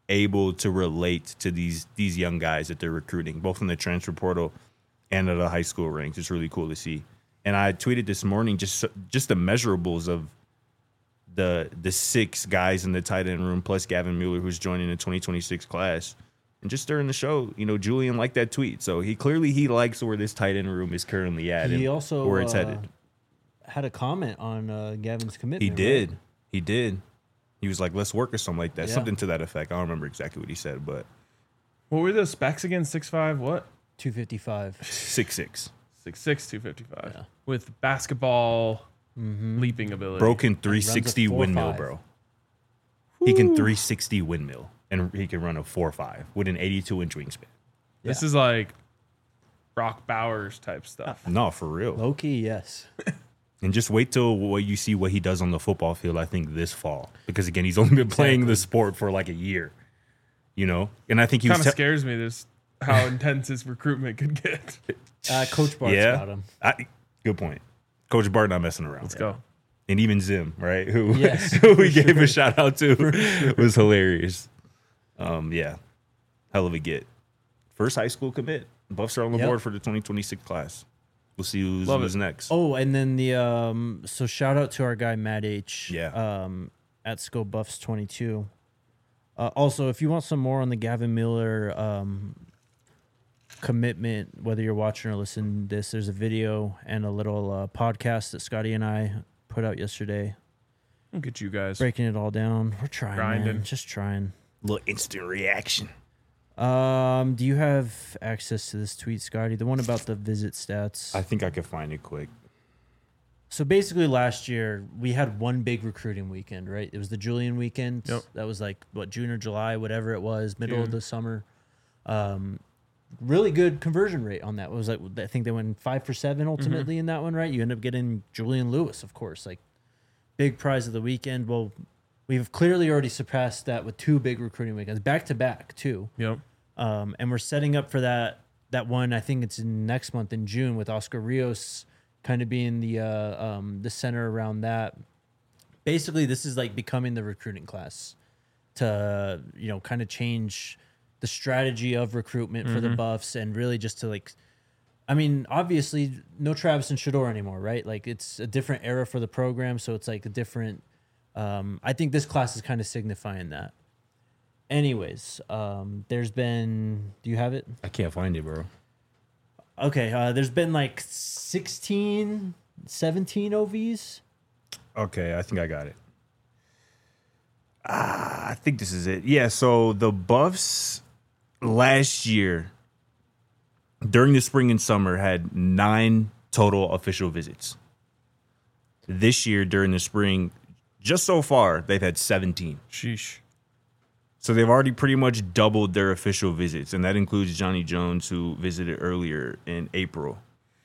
able to relate to these young guys that they're recruiting, both in the transfer portal and at the high school ranks. It's really cool to see. And I tweeted this morning just the measurables of the 6 guys in the tight end room plus Gavin Mueller, who's joining the 2026 class. And just during the show, Julian liked that tweet. So he likes where this tight end room is currently at. He and also where it's headed. Had a comment on Gavin's commitment. He did. Right? He did. He was like, let's work or something like that. Yeah. Something to that effect. I don't remember exactly what he said, but What were the specs again? 6'5", what? 255. 6'6". 6'6", 255. Yeah. With basketball leaping ability. Broken 360 4.5. windmill, bro. He can 360 windmill, and he can run a 4.5 with an 82-inch wingspan. This is like Brock Bowers type stuff. No, for real. Low key, yes. And just wait till you see what he does on the football field, I think, this fall. Because, again, he's only been playing the sport for like a year. And I think he Kind was of scares me this how intense his recruitment could get. Coach Bart's got him. Good point. Coach Bart not messing around. Let's go. And even Zim, right? Who Yes, we gave a shout out to was hilarious. Yeah. Hell of a get. First high school commit. Buffs are on the board for the 2026 class. We'll see who's next. Oh, and then the so shout out to our guy Matt H. Yeah. At Skull Buffs 22. Also, if you want some more on the Gavin Miller commitment, whether you're watching or listening to this, there's a video and a little podcast that Scotty and I put out yesterday. Look at you guys. Breaking it all down. We're trying, Grinding. man. Just trying. Little instant reaction. Do you have access to this tweet, Scotty? The one about the visit stats. I think I could find it quick. So basically last year we had one big recruiting weekend, right? It was the Julian weekend. Yep. That was like June or July, whatever it was, middle of the summer. Really good conversion rate on that. It was like, I think they went 5 for 7 ultimately in that one, right? You end up getting Julian Lewis, of course, like big prize of the weekend. Well, we've clearly already surpassed that with 2 big recruiting weekends, back to back too. Yep. And we're setting up for that one. I think it's in next month in June with Oscar Rios kind of being the center around that. Basically, this is like becoming the recruiting class to kind of change the strategy of recruitment for the Buffs, and really just to obviously no Travis and Shador anymore, right? Like it's a different era for the program, so it's like a different. I think this class is kind of signifying that. Anyways, there's been. Do you have it? I can't find it, bro. Okay, there's been like 16, 17 OVs. Okay, I think I got it. I think this is it. Yeah, so the Buffs last year, during the spring and summer, had 9 total official visits. This year, during the spring, just so far, they've had 17. Sheesh. So they've already pretty much doubled their official visits, and that includes Johnny Jones, who visited earlier in April.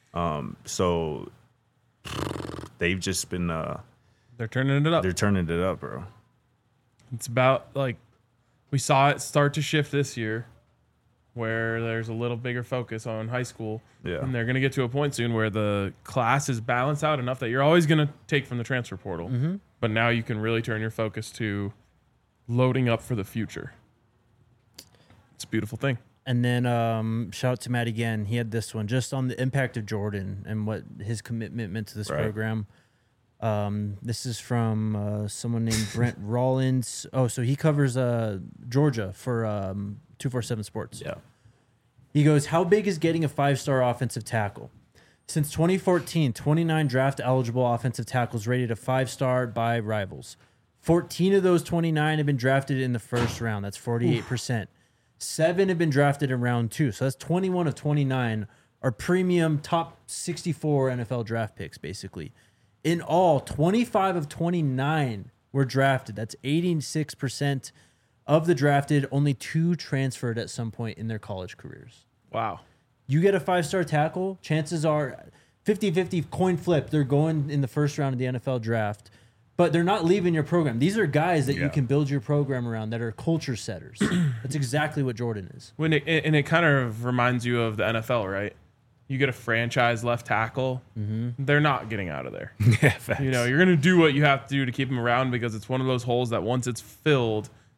So they've just been They're turning it up. they're turning it up, bro. It's about like we saw it start to shift this year where there's a little bigger focus on high school. Yeah. And they're going to get to a point soon where the class is balanced out enough that you're always going to take from the transfer portal. But now you can really turn your focus to loading up for the future. It's a beautiful thing. And then shout out to Matt again. He had this one just on the impact of Jordan and what his commitment meant to this program. This is from someone named Brent Rollins. Oh, so he covers Georgia for 247 Sports. Yeah. He goes, how big is getting a 5-star offensive tackle? Since 2014, 29 draft-eligible offensive tackles rated a 5-star by Rivals. 14 of those 29 have been drafted in the first round. That's 48%. 7 have been drafted in round 2. So that's 21 of 29 are premium top 64 NFL draft picks, basically. In all, 25 of 29 were drafted. That's 86% of the drafted. Only 2 transferred at some point in their college careers. Wow. You get a 5-star tackle, chances are 50-50 coin flip. They're going in the first round of the NFL draft, but they're not leaving your program. These are guys that you can build your program around that are culture setters. That's exactly what Jordan is. And it kind of reminds you of the NFL, right? You get a franchise left tackle, they're not getting out of there. Yeah, facts. You're going to do what you have to do to keep them around because it's one of those holes that once it's filled,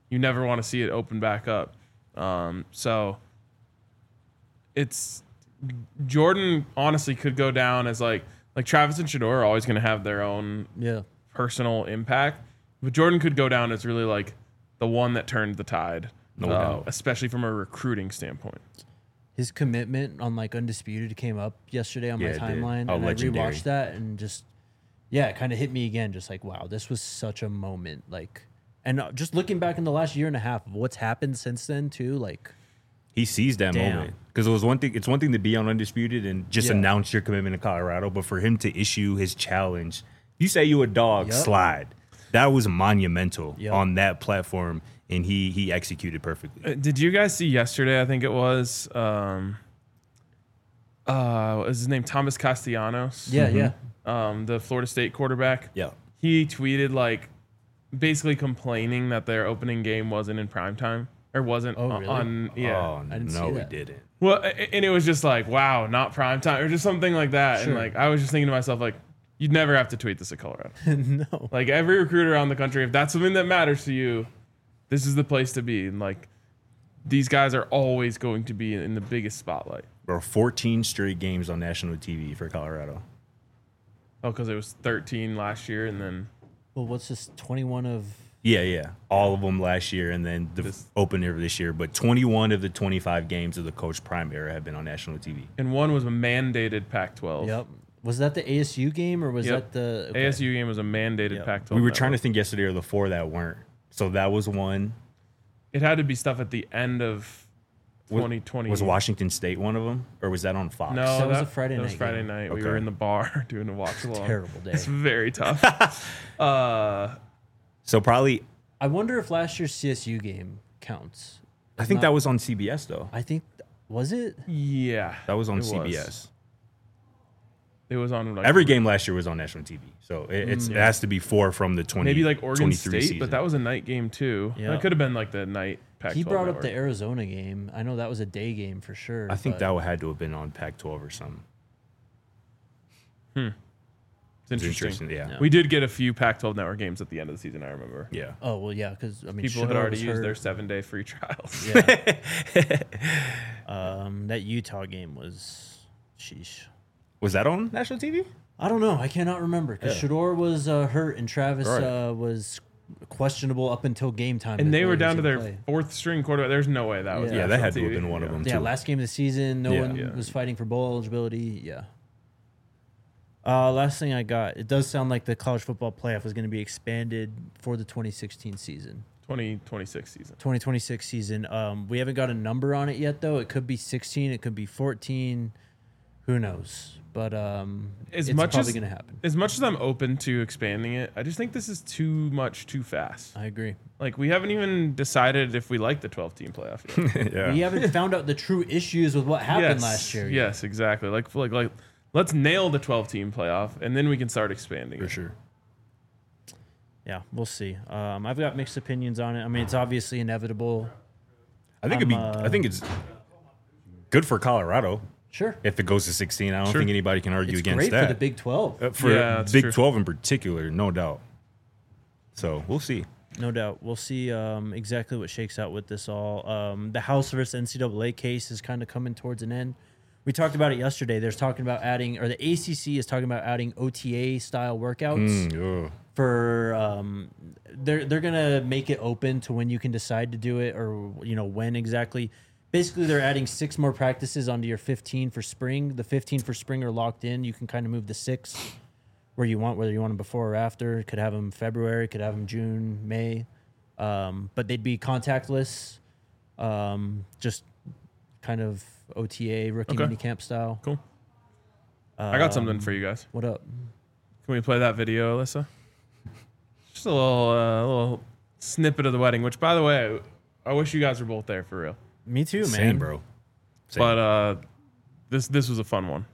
you never want to see it open back up. So it's Jordan honestly could go down as like Travis and Shedeur are always going to have their own personal impact, but Jordan could go down as really like the one that turned the tide, especially from a recruiting standpoint. His commitment on like Undisputed came up yesterday on my timeline, Oh, and legendary. I rewatched that and just it kind of hit me again. Just like, wow, this was such a moment. Like, and just looking back in the last year and a half of what's happened since then too, like. He seized that moment because it was one thing. It's one thing to be on Undisputed and just announce your commitment to Colorado, but for him to issue his challenge, you say you a dog, slide. That was monumental on that platform, and he executed perfectly. Did you guys see yesterday? I think it was. What was his name? Thomas Castellanos. Yeah. The Florida State quarterback. Yeah. He tweeted like basically complaining that their opening game wasn't in primetime. Or wasn't really? on, yeah. Oh, I didn't see no, we that. didn't. Well, and it was just like, wow, not prime time, or just something like that. Sure. And like, I was just thinking to myself, like, you'd never have to tweet this at Colorado. No. Like every recruiter around the country, if that's something that matters to you, this is the place to be. And like, these guys are always going to be in the biggest spotlight. Bro, 14 straight games on national TV for Colorado. Oh, because it was 13 last year, and then Well, what's this? 21 of. Yeah. All of them last year and then the opener of this year. But 21 of the 25 games of the Coach Prime era have been on national TV. and one was a mandated Pac-12. Yep. Was that the ASU game or was Yep. that the ASU game was a mandated Pac-12. We were network. trying to think yesterday or the four that weren't. So that was one. It had to be stuff at the end of 2020. Was Washington State one of them? Or was that on Fox? No, That was a Friday that was night Friday game. night. We Okay. were in the bar doing a watch along. terrible day. It's very tough. So probably, I wonder if last year's CSU game counts. I think that was on CBS though. I think was it? Yeah, That was on it CBS. It was on like, Every game last year was on national TV. So it has to be four from the 20. maybe like Oregon 23 State, season. but that was a night game too. Yeah. That could have been like the night Pac-12 He brought up network. the Arizona game. I know that was a day game for sure. I think but that had to have been on Pac-12 or something. It's interesting. Interesting, yeah. We did get a few Pac-12 network games at the end of the season. I remember. Yeah. Oh well, yeah, because I mean, People had Shedeur already was used hurt. their 7-day free trials. Yeah. That Utah game was, sheesh. Was that on national TV? I don't know. I cannot remember because Shedeur was hurt and Travis Right. Was questionable up until game time. And that they were he was down to gonna their play. fourth string quarterback. There's no way that was. Yeah, that national had to have TV. been one of them. Yeah, too. last game of the season, no Yeah. one Yeah. was fighting for bowl eligibility. Yeah. Last thing I got, it does sound like the college football playoff is going to be expanded for the 2016 season. 2026 season. 2026 season. We haven't got a number on it yet, though. It could be 16. It could be 14. Who knows? But As it's much probably as going to happen. As much as I'm open to expanding it, I just think this is too much too fast. I agree. Like we haven't even decided if we like the 12-team playoff yet. Yeah. We haven't found out the true issues with what happened last year. yet. Yes, exactly. Like let's nail the 12-team playoff, and then we can start expanding. For it. sure. Yeah, we'll see. I've got mixed opinions on it. I mean, it's obviously inevitable. I think I think it's good for Colorado Sure. if it goes to 16. I don't Sure. think anybody can argue It's against great that. for the Big 12. For Yeah, that's Big true. 12 in particular, no doubt. So we'll see. No doubt. We'll see exactly what shakes out with this all. The House versus NCAA case is kind of coming towards an end. We talked about it yesterday. There's talking about adding, or the ACC is talking about adding OTA style workouts Ugh. for. They're gonna make it open to when you can decide to do it, or when exactly. Basically, they're adding 6 more practices onto your 15 for spring. The 15 for spring are locked in. You can kind of move the 6 where you want, whether you want them before or after. Could have them February, could have them June, May. But they'd be contactless, just kind of OTA, rookie Okay. minicamp style. Cool. I got something for you guys. What up? Can we play that video, Alyssa? Just a little snippet of the wedding. Which, by the way, I wish you guys were both there for real. Me too, man. Same, bro. Same. But this was a fun one.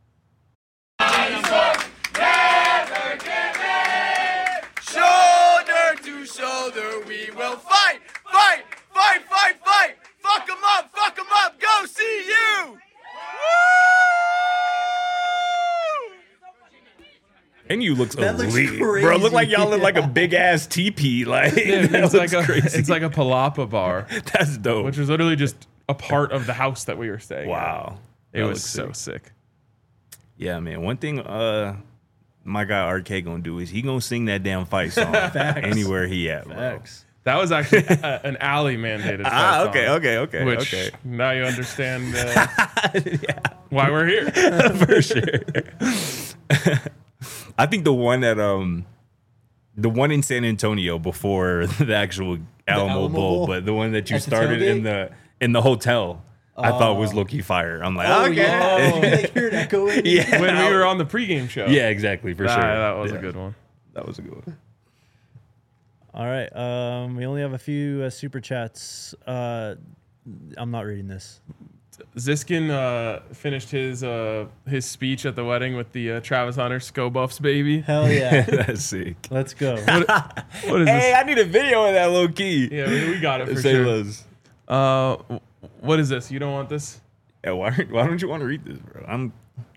Shoulder to shoulder, we will fight, fight, fight, fight, fight. Fuck 'em up, go see you. Woo! And you look That looks elite, crazy. bro. Look like y'all in like a big ass teepee. Like Yeah, that it's like looks crazy. it's like a palapa bar, That's dope. which was literally just a part of the house that we were staying. Wow, It That was looks so sick. sick. Yeah, man. One thing, my guy RK gonna do is he gonna sing that damn fight song anywhere he at, bro. Facts. That was actually an alley mandated. Ah, fight song, okay. Which now you understand why we're here. For sure. I think the one that the one in San Antonio before the actual Alamo Alamo Bowl, Bowl? but the one that you At the started tailgate? in the hotel, I thought was low-key fire. I'm like, okay. Yeah. You like hear it echoing? Yeah. When we were on the pregame show. Yeah, exactly, for sure. That was Yeah. a good one. That was a good one. All right. We only have a few super chats. I'm not reading this. Ziskin finished his speech at the wedding with the Travis Hunter Scobuffs baby. Hell yeah. That's sick. Let's go. What is Hey, this? I need a video of that low key. Yeah, we got it for Say sure. less. What is this? You don't want this? Yeah, why don't you want to read this, bro? I'm.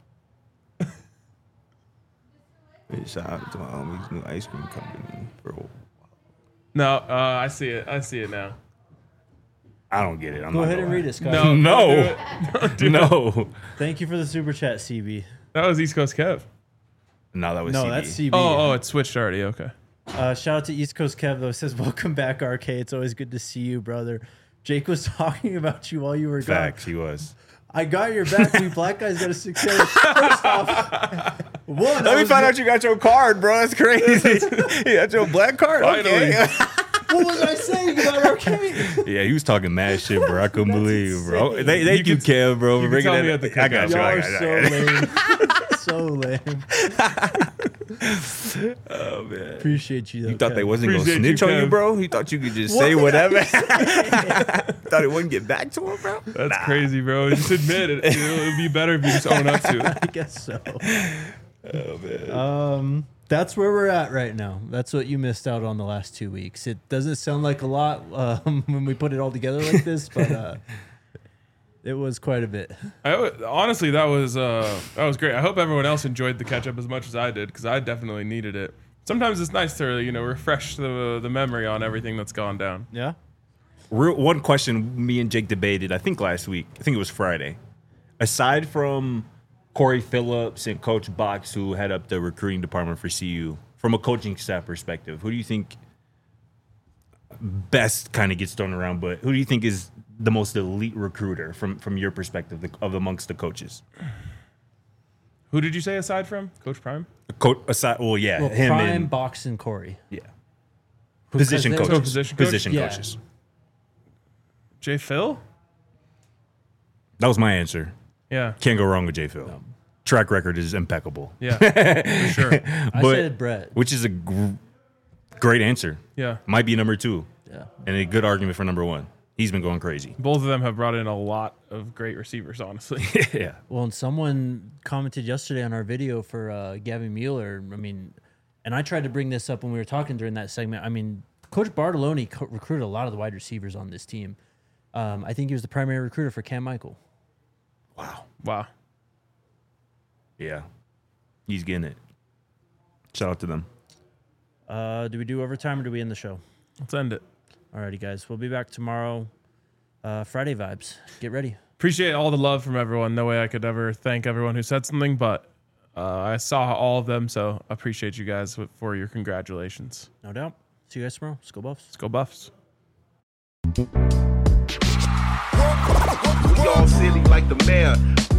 Hey, shout out to my homies, new ice cream company, bro. No, I see it. I see it now. I don't get it. I'm Go not ahead gonna and lie. read it, Scott. No, No. don't do it. No. Thank you for the super chat, CB. That was East Coast Kev. No, that was No, CB. that's CB. Oh, it switched already. Okay. Shout out to East Coast Kev though. Says welcome back, RK. It's always good to see you, brother. Jake was talking about you while you were Facts. gone. He was. I got your back. We black guys got a 6 First off, one. Let me find out you got your card, bro. That's crazy. You got your black card. Finally. Okay. What was I saying about RK? Yeah, he was talking mad shit, bro. I couldn't That's believe it, bro. insane. Thank you, Kev, bro, for you can bringing tell that. me at the I got cookout. you. Y'all I are got so you. lame. So lame. Oh man. Appreciate you. Though, You thought they Kev. wasn't gonna Appreciate snitch you, on you, Kev. bro? He thought you could just What say did I whatever. say? Thought it wouldn't get back to him, bro. That's crazy, bro. Just admit it. It would be better if you just own up to it. I guess so. Oh man. That's where we're at right now. That's what you missed out on the last 2 weeks. It doesn't sound like a lot when we put it all together like this, but it was quite a bit. Honestly, that was great. I hope everyone else enjoyed the catch up as much as I did because I definitely needed it. Sometimes it's nice to refresh the memory on everything that's gone down. Yeah. One question me and Jake debated, I think last week. I think it was Friday. Aside from Corey Phillips and Coach Box, who head up the recruiting department for CU, from a coaching staff perspective, who do you think best kind of gets thrown around, but who do you think is the most elite recruiter from your perspective of amongst the coaches? Who did you say aside from Coach Prime? Aside, well, yeah, Well, him Prime, and Box, and Corey. yeah, position they were- coaches, Position coach? position Yeah. coaches. Jay Phil? That was my answer. Yeah. Can't go wrong with J. Phil. Track record is impeccable. Yeah. For sure. I But- said Brett. Which is a great answer. Yeah. Might be number 2 Yeah. and a good argument for number 1. He's been going crazy. Both of them have brought in a lot of great receivers, honestly. Yeah. Well, and someone commented yesterday on our video for Gavin Mueller. I mean, and I tried to bring this up when we were talking during that segment. I mean, Coach Bartoloni recruited a lot of the wide receivers on this team. I think he was the primary recruiter for Cam Michael. Wow. Yeah. He's getting it. Shout out to them. Do we do overtime or do we end the show? Let's end it. Alrighty, guys. We'll be back tomorrow. Friday vibes. Get ready. Appreciate all the love from everyone. No way I could ever thank everyone who said something, but I saw all of them, so I appreciate you guys for your congratulations. No doubt. See you guys tomorrow. Let's go Buffs. Let's go Buffs. We all silly like the mayor.